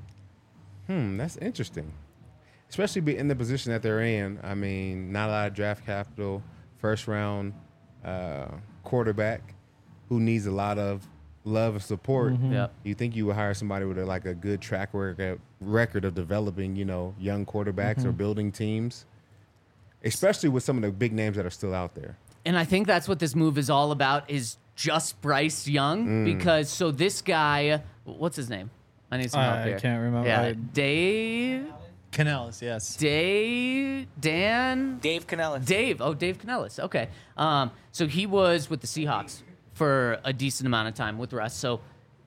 D: Hmm, that's interesting. Especially be in the position that they're in. I mean, not a lot of draft capital, first round uh, quarterback who needs a lot of love and support.
B: Yep.
D: You think you would hire somebody with a, like a good track record record of developing, you know, young quarterbacks or building teams, especially with some of the big names that are still out there.
B: And I think that's what this move is all about is just Bryce Young because so this guy, what's his name? I need some help
C: I
B: here.
C: can't remember.
B: Yeah,
C: I-
B: Dave,
C: Canales, yes.
B: Dave, Dan,
E: Dave Canellis.
B: Dave. Oh, Dave Canellis. Okay. Um, so he was with the Seahawks for a decent amount of time with Russ. So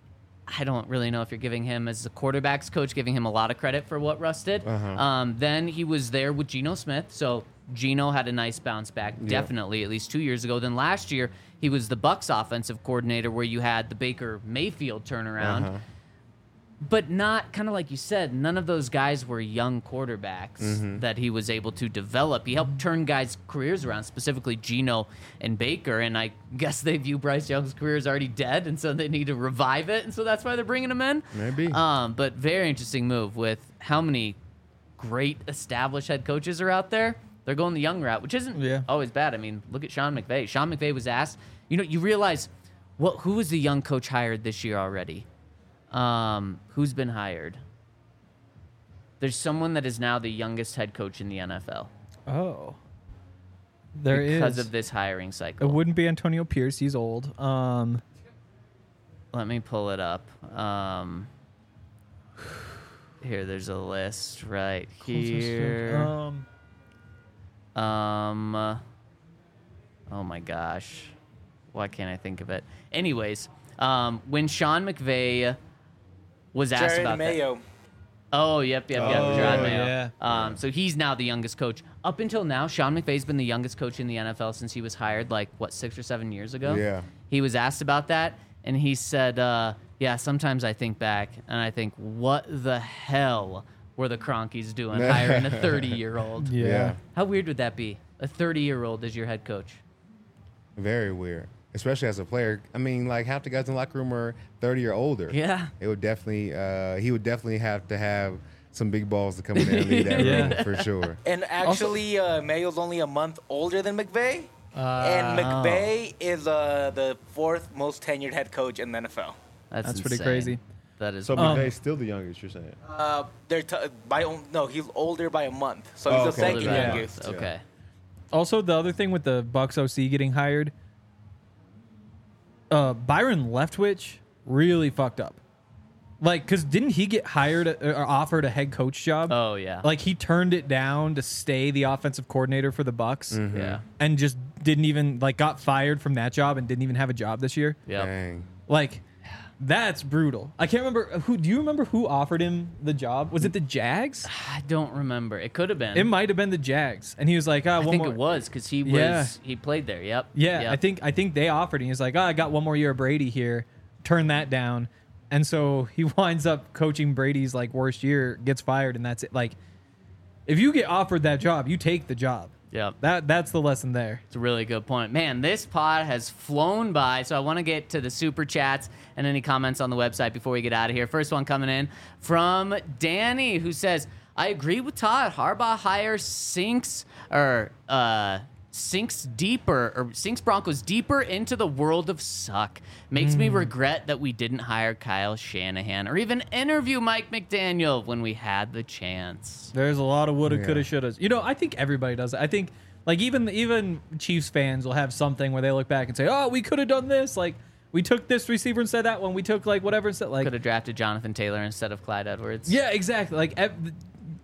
B: I don't really know if you're giving him as a quarterbacks coach, giving him a lot of credit for what Russ did.
D: Uh-huh.
B: Um, then he was there with Geno Smith. So Geno had a nice bounce back,
D: Yeah.
B: definitely, at least two years ago. Then last year, he was the Bucks offensive coordinator where you had the Baker Mayfield turnaround.
D: Uh-huh.
B: But not kind of like you said, none of those guys were young quarterbacks
D: Mm-hmm.
B: that he was able to develop. He helped turn guys' careers around, specifically Geno and Baker. And I guess they view Bryce Young's career as already dead, and so they need to revive it. And so that's why they're bringing him in.
D: Maybe.
B: Um, but very interesting move with how many great established head coaches are out there. They're going the young route, which isn't
C: Yeah.
B: always bad. I mean, look at Sean McVay. Sean McVay was asked, you know, you realize what who was the young coach hired this year already? Um, who's been hired? There's someone that is now the youngest head coach in the N F L
C: Oh. There is.
B: because of this hiring
C: It
B: cycle.
C: wouldn't be Antonio Pierce. He's old. Um,
B: Let me pull it up. Um, here, there's a list right here.
C: Um,
B: Um. uh, oh my gosh, why can't I think of it? Anyways, um, when Sean McVay was asked
E: Jared
B: about that.
E: Mayo.
B: Oh, yep, yep, yep.
C: Oh,
B: Jerod Mayo.
C: yeah.
B: Um, so he's now the youngest coach. Up until now, Sean McVay's been the youngest coach in the N F L since he was hired, like, what, six or seven years ago?
D: Yeah.
B: He was asked about that, and he said, uh, yeah, sometimes I think back, and I think, what the hell were the Cronkies doing hiring a thirty-year-old?
C: Yeah.
D: Yeah.
B: How weird would that be? A thirty-year-old as your head coach?
D: Very weird, especially as a player. I mean, like half the guys in the locker room are thirty or older.
B: Yeah.
D: It would definitely. Uh, he would definitely have to have some big balls to come in there and lead that
C: Yeah.
D: room for sure.
E: And actually, uh, Mayo's only a month older than McVay. and McVay is uh, the fourth most tenured head coach in the N F L.
B: That's,
C: That's pretty
B: insane.
C: crazy.
B: That is.
G: So
C: Um,
G: McVay's still the youngest, you're saying?
E: Uh, they're t- by on- no, he's older by a month, so
G: Oh,
E: he's the
G: okay.
E: second
B: Older than
E: youngest.
B: us. Okay.
C: Also, the other thing with the Bucks O C getting hired, uh, Byron Leftwich really fucked up. Like, cause didn't he get hired uh, or offered a head coach job?
B: Oh yeah.
C: Like he turned it down to stay the offensive coordinator for the Bucks,
B: yeah.
C: and just didn't even like got fired from that job and didn't even have a job this year.
B: Yep.
D: Dang.
C: Like, that's brutal. I can't remember who. Do you remember who offered him the job? Was it the Jags?
B: I don't remember. It could have been.
C: It might have been the Jags, and he was like, "Ah,
B: I
C: one
B: think
C: more."
B: it was because he was
C: Yeah.
B: he played there. Yep.
C: Yeah,
B: Yep.
C: I think I think they offered. And he was like, "Oh, I got one more year of Brady here. Turn that down." And so he winds up coaching Brady's like worst year, gets fired, and that's it. Like, if you get offered that job, you take the job.
B: Yep.
C: That that's the lesson there.
B: It's a really good point. Man, this pod has flown by, so I want to get to the super chats and any comments on the website before we get out of here. First one coming in from Danny, who says, I agree with Todd. Harbaugh hire sinks or uh sinks deeper or sinks Broncos deeper into the world of suck. Makes me regret that we didn't hire Kyle Shanahan or even interview Mike McDaniel when we had the chance.
C: There's a lot of woulda,
D: Yeah.
C: coulda, shouldas. You know, I think everybody does it. I think like even even Chiefs fans will have something where they look back and say, "Oh, we could have done this. Like we took this receiver instead of that one. We took like whatever instead." Like
B: Could have drafted Jonathan Taylor instead of Clyde Edwards.
C: yeah, exactly. Like ev-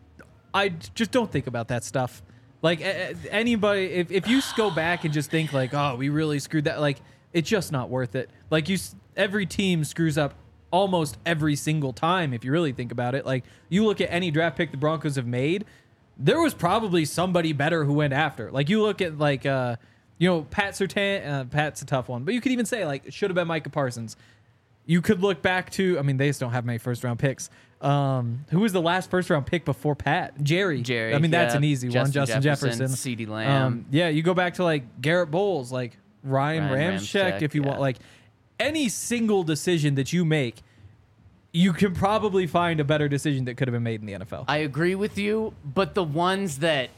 C: I just don't think about that stuff. Like a- a- anybody, if if you s- go back and just think like, "Oh, we really screwed that," like it's just not worth it. Like you, s- every team screws up almost every single time if you really think about it. Like you look at any draft pick the Broncos have made, there was probably somebody better who went after. Like you look at like uh, you know, Pat Surtain. Uh, Pat's a tough one, but you could even say like it should have been Micah Parsons. You could look back to, I mean, they just don't have many first round picks. Um, who was the last first round pick before Pat? Jerry.
B: Jerry,
C: I mean, that's
B: yeah.
C: an easy one.
B: Justin
C: Justin
B: Jefferson,
C: Jefferson.
B: CeeDee Lamb.
C: Um, yeah, you go back to like Garrett Bowles, like Ryan,
B: Ryan
C: Ramczyk,
B: Ramczyk,
C: if you
B: yeah.
C: want. Like any single decision that you make, you can probably find a better decision that could have been made in the N F L.
B: I agree with you, but the ones that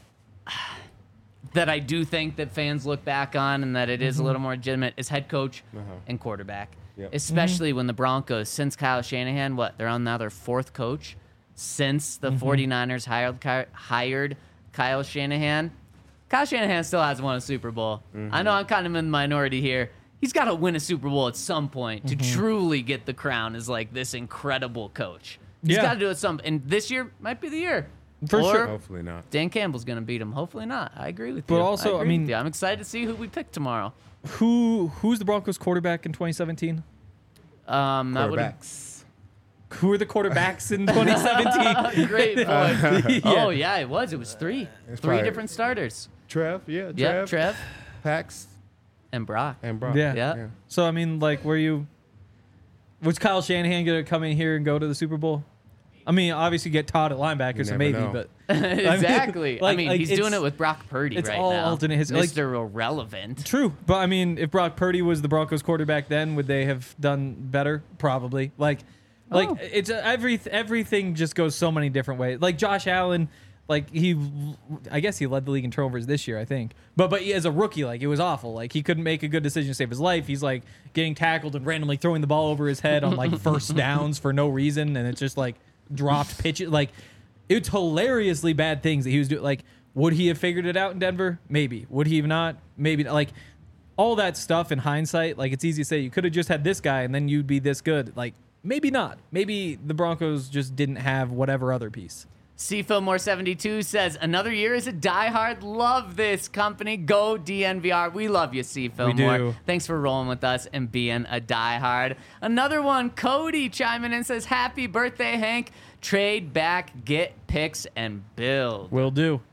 B: that I do think that fans look back on and that it is a little more legitimate is head coach and quarterback.
D: Yep.
B: Especially when the Broncos, since Kyle Shanahan, what, they're on now their fourth coach since the 49ers hired Ky- hired Kyle Shanahan. Kyle Shanahan still hasn't won a Super Bowl. I know I'm kind of in the minority here. He's got to win a Super Bowl at some point to truly get the crown as like this incredible coach. He's
C: Yeah.
B: got to do it some, and this year might be the year.
C: For
B: Or
C: sure.
D: Hopefully not.
B: Dan Campbell's going to beat him. Hopefully not. I agree with
C: But
B: you.
C: also, I
B: agree with
C: mean-
B: you. I'm excited to see who we pick tomorrow.
C: Who who's the Broncos quarterback in twenty seventeen?
B: Um, that would
D: Quarterbacks.
C: Who are the quarterbacks in twenty seventeen?
B: great point.
C: Yeah.
B: Oh yeah, it was. It was three,
D: It's
B: three
D: probably-
B: different starters.
G: Trev, yeah, Trev.
B: Yeah, Trev
D: Pax
B: and Brock.
D: and Brock.
C: Yeah.
B: Yeah.
C: So I mean, like, were you? Was Kyle Shanahan gonna come in here and go to the Super Bowl? I mean, obviously get Todd at linebacker, so
D: never
C: maybe,
D: know.
C: but
B: exactly. I
C: like-
B: mean,
C: like,
B: he's
C: it's-
B: doing it with Brock Purdy
C: it's
B: right
C: all
B: now.
C: alternate his- like-
B: Mister Irrelevant.
C: true. But I mean, if Brock Purdy was the Broncos quarterback, then would they have done better? Probably. Like, like
B: Oh.
C: it's uh, every everything just goes so many different ways. Like Josh Allen, like he, I guess he led the league in turnovers this year, I think. But but as a rookie, like it was awful. Like he couldn't make a good decision to save his life. He's like getting tackled and randomly throwing the ball over his head on like first downs for no reason, and it's just like dropped pitches. Like it's hilariously bad things that he was doing. Like would he have figured it out in Denver? Maybe. Would he have not? Maybe. Like all that stuff in hindsight, like it's easy to say you could have just had this guy and then you'd be this good. Like maybe not. Maybe the Broncos just didn't have whatever other piece.
B: C. Fillmore seventy-two says, another year is a diehard. Love this company. Go D N V R. We love you, C. Fillmore.
C: do.
B: Thanks for rolling with us and being a diehard. Another one, Cody chiming in says, happy birthday, Hank. Trade back, get picks, and build.
C: Will do.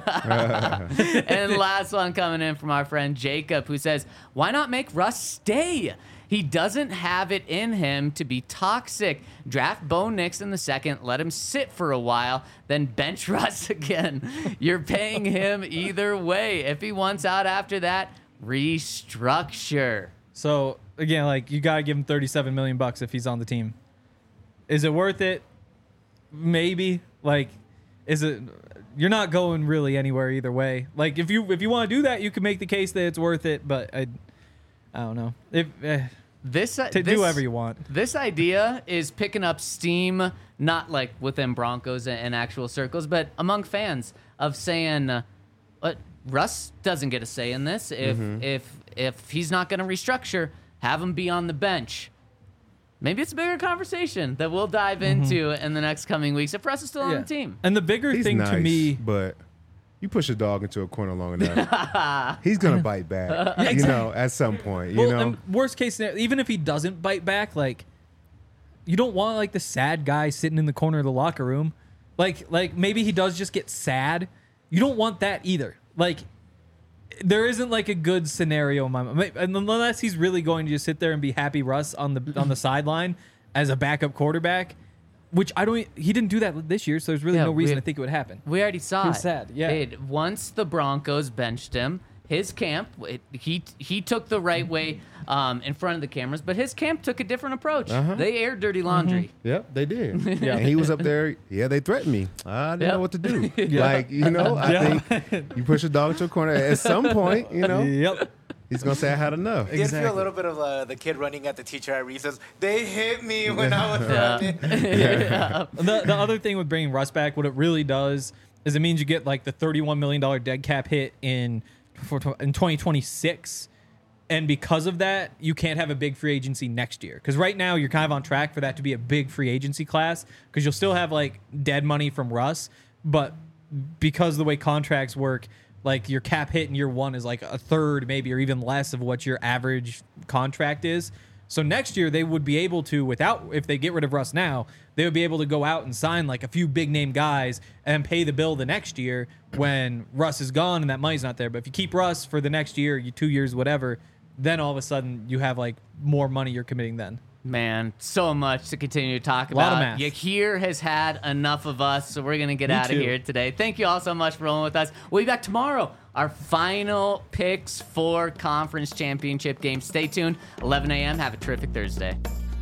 B: And last one coming in from our friend Jacob, who says, why not make Russ stay? He doesn't have it in him to be toxic. Draft Bo Nix in the second, let him sit for a while, then bench Russ again. You're paying him either way. If he wants out after that, restructure.
C: So again, like you gotta give him thirty-seven million bucks if he's on the team. Is it worth it? Maybe. Like, is it? You're not going really anywhere either way. Like if you if you want to do that, you can make the case that it's worth it. But I, I don't know. If eh,
B: This, uh,
C: to
B: this,
C: do whatever you want.
B: This idea is picking up steam, not like within Broncos and, and actual circles, but among fans of saying, uh, "What Russ doesn't get a say in this. If
D: Mm-hmm.
B: if if he's not going to restructure, have him be on the bench." Maybe it's a bigger conversation that we'll dive into in the next coming weeks if Russ is still on the team.
C: And the bigger
D: He's
C: thing
D: nice,
C: to me,
D: but you push a dog into a corner long enough, he's gonna bite back. You know, at some point. You
C: well,
D: know,
C: and worst case scenario, even if he doesn't bite back, like you don't want like the sad guy sitting in the corner of the locker room. Like like maybe he does just get sad. You don't want that either. Like there isn't like a good scenario in my mind, unless he's really going to just sit there and be happy Russ on the on the sideline as a backup quarterback, which I don't. He didn't do that this year, so there's really
B: Yeah,
C: no reason
B: we-
C: to think it would happen.
B: We already saw
C: He
B: it.
C: was sad, yeah.
B: It- once the Broncos benched him, his camp, it, he he took the right way um, in front of the cameras, but his camp took a different approach.
D: Uh-huh.
B: They aired dirty laundry.
D: Yep, they did. And he was up there. Yeah, they threatened me. I didn't
B: Yep.
D: know what to do. Like, you know, I think you push a dog to a corner. At some point, you know,
C: Yep.
D: he's going to say, I had enough.
E: Did feel a little bit of uh, the kid running at the teacher at recess. They hit me when I was running.
B: Yeah.
C: the the other thing with bringing Russ back, what it really does is it means you get like the thirty-one million dollars dead cap hit in for, in twenty twenty-six, and because of that, you can't have a big free agency next year. Because right now you're kind of on track for that to be a big free agency class, because you'll still have like dead money from Russ, but because of the way contracts work, like your cap hit in year one is like a third, maybe, or even less of what your average contract is. So next year they would be able to, without, if they get rid of Russ now, they would be able to go out and sign like a few big name guys and pay the bill the next year when Russ is gone and that money's not there. But if you keep Russ for the next year, you two years, whatever, then all of a sudden you have like more money you're committing then.
B: Man, so much to continue to talk
C: A lot of
B: about.
C: math.
B: Yakir has had enough of us, so we're going to get
C: Me
B: out of
C: too.
B: here today. Thank you all so much for rolling with us. We'll be back tomorrow. Our final picks for conference championship games. Stay tuned. eleven a.m. Have a terrific Thursday.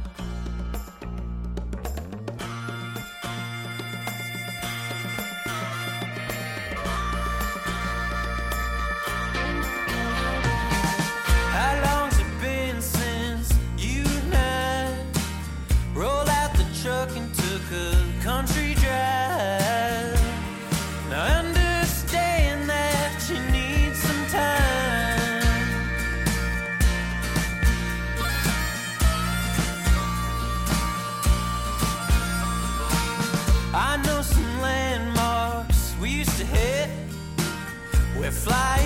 A: How long's it been since you and I rolled out the truck and took a country drive? Now I understand that you need some time. I know some landmarks we used to hit. We're flying